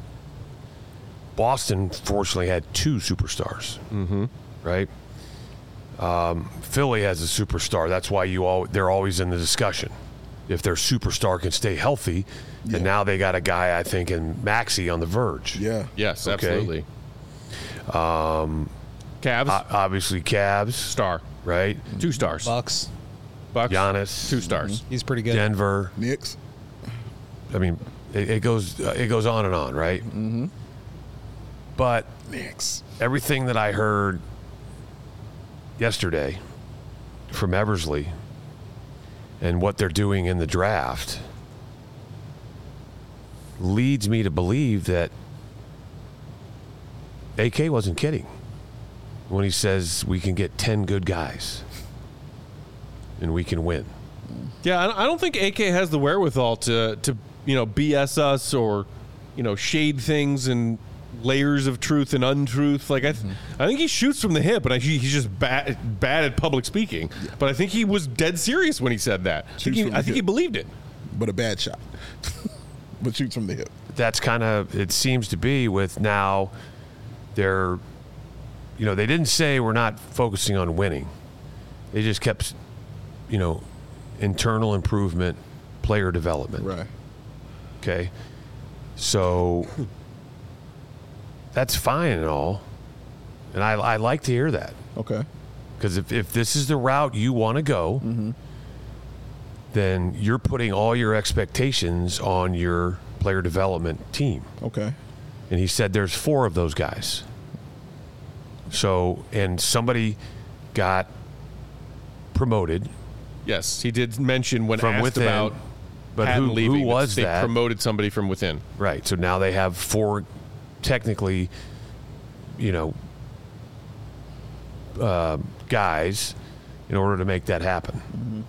Boston fortunately had two superstars. Mm-hmm. Right. Um, Philly has a superstar. That's why you all they're always in the discussion. If their superstar can stay healthy, Yeah. and now they got a guy I think in Maxey on the verge. Yeah. Yes, Okay. absolutely. Um, Cavs, O- obviously, Cavs, star, right? two stars. Bucks. Bucks, Giannis, two stars. He's pretty good. Denver. Knicks. I mean, it, it goes uh, it goes on and on, right? Mm-hmm. But Knicks. everything that I heard yesterday from Eversley and what they're doing in the draft leads me to believe that A K wasn't kidding when he says we can get ten good guys and we can win. Yeah, I I don't think A K has the wherewithal to to you know B S us or you know shade things and layers of truth and untruth. Like I, th- I think he shoots from the hip, but I, he, he's just bad bad at public speaking. But I think he was dead serious when he said that. I think, Shoots he, from the I think he hip. believed it. But a bad shot. But shoots from the hip. That's kind of it seems to be with now they're you know they didn't say we're not focusing on winning. They just kept you know internal improvement, player development. Right. Okay. So that's fine and all. And I, I like to hear that. Okay. Because if, if this is the route you want to go, Mm-hmm. then you're putting all your expectations on your player development team. Okay. And he said there's four of those guys. So, and somebody got promoted Yes, he did mention when from asked within. about But Patton who, leaving, who was they that? promoted somebody from within. Right. So now they have four, technically, you know, uh, guys in order to make that happen. Mm-hmm.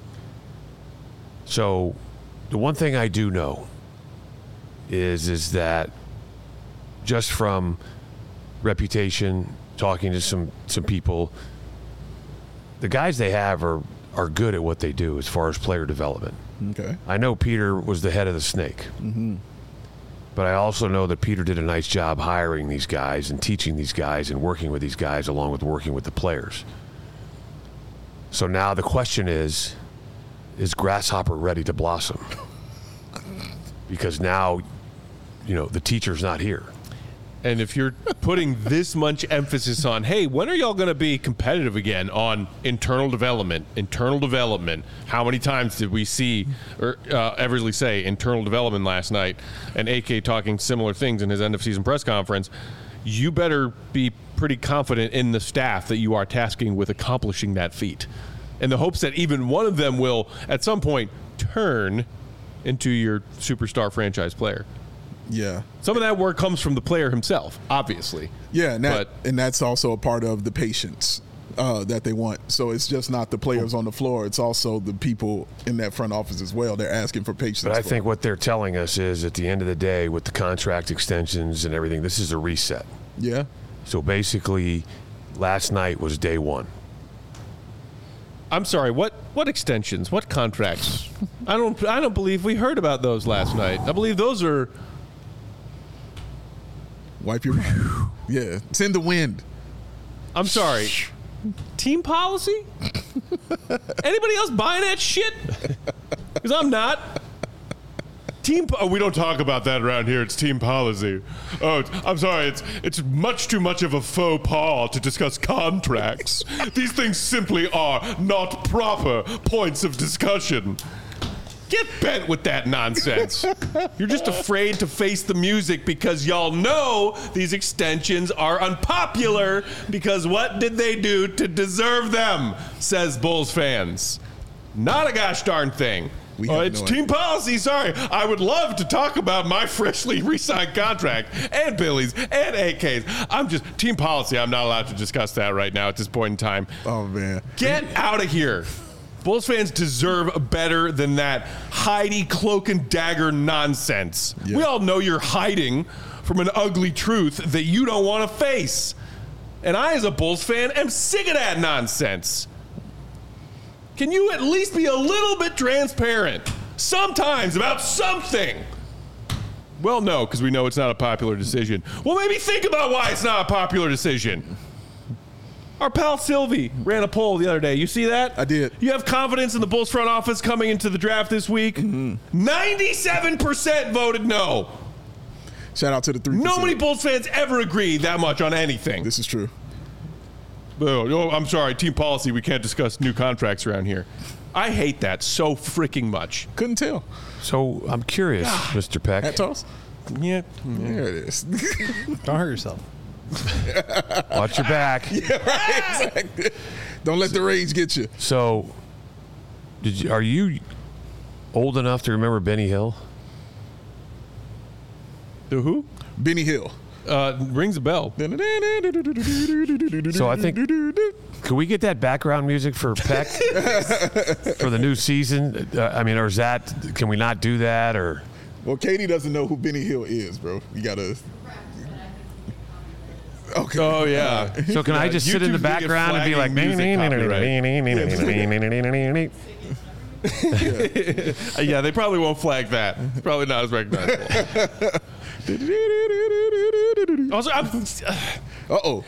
So the one thing I do know is is that just from reputation, talking to some some people, the guys they have are are good at what they do as far as player development. Okay. I know Peter was the head of the snake. Mm-hmm. But I also know that Peter did a nice job hiring these guys and teaching these guys and working with these guys along with working with the players. So now the question is, is Grasshopper ready to blossom? Because now, you know, the teacher's not here. And if you're putting this much emphasis on, hey, when are y'all going to be competitive again on internal development, internal development? How many times did we see or uh, Eversley say internal development last night, and A K talking similar things in his end of season press conference? You better be pretty confident in the staff that you are tasking with accomplishing that feat, in the hopes that even one of them will at some point turn into your superstar franchise player. Yeah. Some of that work comes from the player himself, obviously. Yeah, and, that, But- and that's also a part of the patience uh, that they want. So it's just not the players on the floor; it's also the people in that front office as well. They're asking for patience. But I for think it. what they're telling us is at the end of the day, with the contract extensions and everything, this is a reset. yeah, So basically, last night was day one. I'm sorry. What what extensions? What contracts? I don't I don't believe we heard about those last night. I believe those are. Wipe your mind. Yeah, it's in the wind. I'm sorry. Team policy? Anybody else buying that shit? Because I'm not. Team. Po- oh, we don't talk about that around here. It's team policy. Oh, it's, I'm sorry. It's it's much too much of a faux pas to discuss contracts. These things simply are not proper points of discussion. Get bent with that nonsense. You're just afraid to face the music because y'all know these extensions are unpopular because what did they do to deserve them, says Bulls fans. Not a gosh darn thing. We Oh, have it's no team idea. policy. Sorry. I would love to talk about my freshly re-signed contract and Billy's and A K's. I'm just team policy. I'm not allowed to discuss that right now at this point in time. Oh, man. Get out of here. Bulls fans deserve better than that Heidi cloak and dagger nonsense. Yeah. We all know you're hiding from an ugly truth that you don't want to face. And I, as a Bulls fan, am sick of that nonsense. Can you at least be a little bit transparent sometimes about something? Well, no, because we know it's not a popular decision. Well, maybe think about why it's not a popular decision. Our pal Sylvie ran a poll the other day. You see that? I did. You have confidence in the Bulls front office coming into the draft this week? Mm-hmm. ninety-seven percent voted no. Shout out to the three percent. No many Bulls fans ever agree that much on anything. This is true. Oh, no, I'm sorry. Team policy, we can't discuss new contracts around here. I hate that so freaking much. Couldn't tell. So I'm curious, Mister Peck. Hat toss? Yeah. There it is. Don't hurt yourself. Watch your back. Yeah, right. Exactly. Don't let the rage get you. So, did you, are you old enough to remember Benny Hill? The who? Benny Hill. Uh, rings a bell. So I think, can we get that background music for Peck for the new season? Uh, I mean, or is that, can we not do that? Or Well, Katie doesn't know who Benny Hill is, bro. You gotta. Okay. Oh, yeah. so can I just sit in the YouTube's gonna get background and be like, copyright. Yeah, they probably won't flag that. It's probably not as recognizable. Also, I'm, Uh-oh.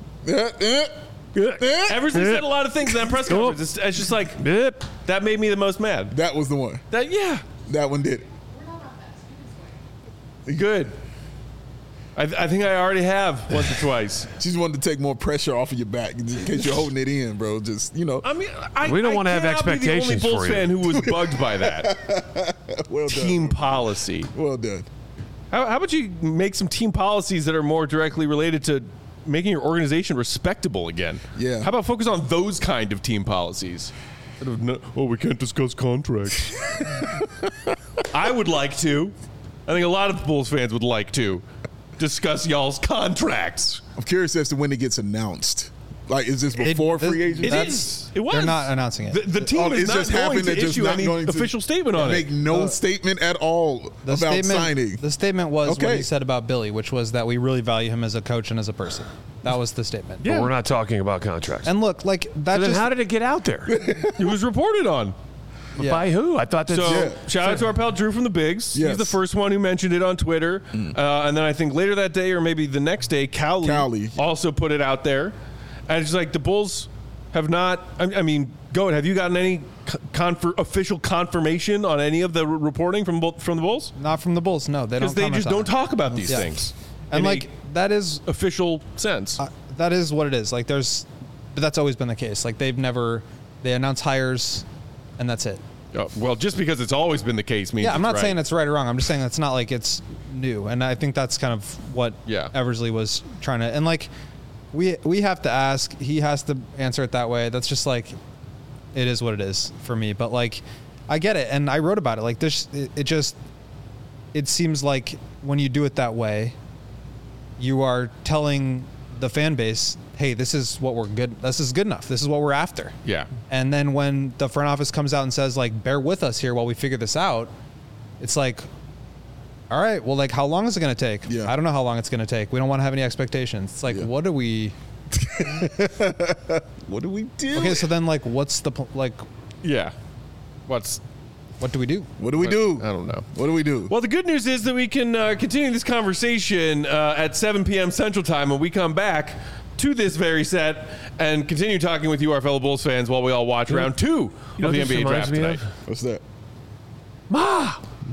ever since he said a lot of things in that press conference, it's, it's just like, that made me the most mad. That was the one. That, yeah, That one did it. good. I, I think I already have once or twice. She just wanted to take more pressure off of your back in case you're holding it in, bro. Just, you know. I mean, I, We don't I wanna have cannot be the only expectations Bulls for you. fan who was bugged by that. Well Team done. policy. Well done. How, how about you make some team policies that are more directly related to making your organization respectable again? Yeah. How about focus on those kind of team policies? Instead of, no, oh, we can't discuss contracts. I would like to. I think a lot of Bulls fans would like to discuss y'all's contracts. I'm curious as to when it gets announced. Like, is this before It- free it- agency? It That's- is. It was. They're not announcing it. The, the team Oh, is it's not just going happened. to They're just issue not any going to official statement on make it. no Uh, statement at all The about statement, signing. The statement was Okay. what he said about Billy, which was that we really value him as a coach and as a person. That was the statement. But we're not talking about contracts. And look, like that So then just how did it get out there? It was reported on. yeah. By who? I thought that's So Yeah. shout out to our pal Drew from the Bigs. Yes. He's the first one who mentioned it on Twitter. Uh, and then I think later that day or maybe the next day, Cowley, Cowley. also put it out there. And it's just like the Bulls have not, I, I mean, go ahead. Have you gotten any confer, official confirmation on any of the r- reporting from, Bull- from the Bulls? not from the Bulls. No, they don't. Because they comment just on don't it. talk about these Yeah. things. And in a like that is official sense. uh, that is what it is. Like there's, but that's always been the case. Like they've never they announce hires, and that's it. Oh, well, just because it's always been the case means Yeah, I'm it's not right. saying it's right or wrong. I'm just saying it's not like it's new. And I think that's kind of what Yeah. Eversley was trying to. And like we we have to ask. He has to answer it that way. That's just like it is what it is for me. But like I get it, and I wrote about it. Like this, it, it just it seems like when you do it that way, you are telling the fan base, "Hey, this is what we're good. This is good enough. This is what we're after." Yeah. And then when the front office comes out and says, like, bear with us here while we figure this out, it's like, all right, well, like, how long is it going to take? Yeah. I don't know how long it's going to take. We don't want to have any expectations. It's like, Yeah. what are we, What do we do? Okay, so then like, what's the pl- like? Yeah. What's What do we do? What do we do? I don't know. What do we do? Well, the good news is that we can uh, continue this conversation uh, at seven p.m. Central Time when we come back to this very set and continue talking with you, our fellow Bulls fans, while we all watch round two You know of the what N B A this draft reminds me tonight. of? What's that? Ma,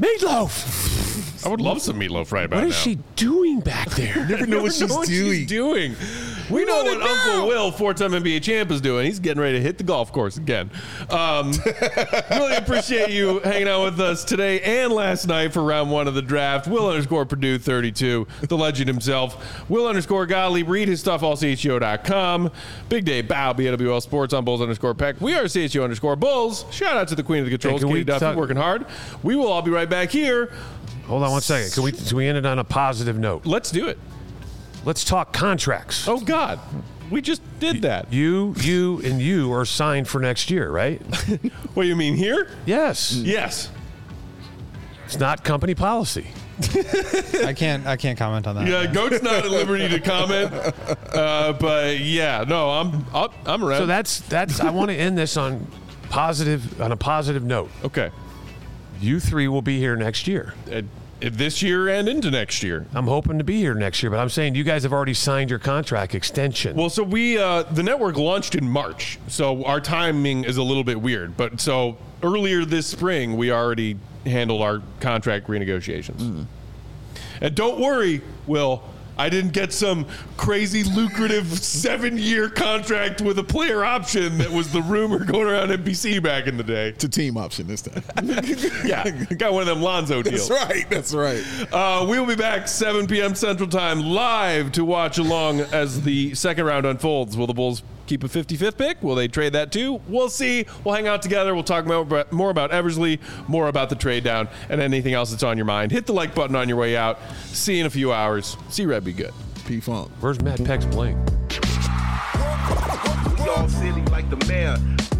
Meatloaf. I would love some meatloaf right about What now. is she doing back there? Never know what she's know what doing. she's doing. We know what Uncle Will, four-time N B A champ, is doing. He's getting ready to hit the golf course again. Um, really appreciate you hanging out with us today and last night for round one of the draft. Will underscore Purdue thirty-two, the legend himself. Will underscore Gottlieb. Read his stuff, all C H G O dot com. Big Day Bow, B A W L Sports on Bulls underscore Peck. We are C H G O underscore Bulls. Shout out to the queen of the controls, Hey, can Katie we Duffy, talk- working hard. We will all be right back here. Hold on one second. Can we, can we end it on a positive note? Let's do it. Let's talk contracts. Oh, God. We just did that. You, you, and you are signed for next year, right? What do you mean here? Yes. Yes. It's not company policy. I can't. I can't comment on that. Yeah, Goat's not at liberty to comment, uh, but yeah, no, I'm I'm, I'm around. So that's that's. I want to end this on positive on a positive note. okay. You three will be here next year. Uh, this year and into next year. I'm hoping to be here next year, but I'm saying you guys have already signed your contract extension. Well, so we uh, the network launched in March, so our timing is a little bit weird. But so earlier this spring, we already handled our contract renegotiations. Mm. And don't worry, Will. I didn't get some crazy lucrative seven-year contract with a player option that was the rumor going around N B C back in the day. It's a team option this time. Yeah, got one of them Lonzo deals. That's right. That's right. Uh, we'll be back seven p.m. Central Time live to watch along as the second round unfolds. Will the Bulls keep a fifty-fifth pick? Will they trade that too? We'll see. We'll hang out together. We'll talk more about, more about Eversley, more about the trade down, and anything else that's on your mind. Hit the like button on your way out. See you in a few hours. See Red be good. P-Funk. Where's Matt Peck's bling? We all silly like the mayor.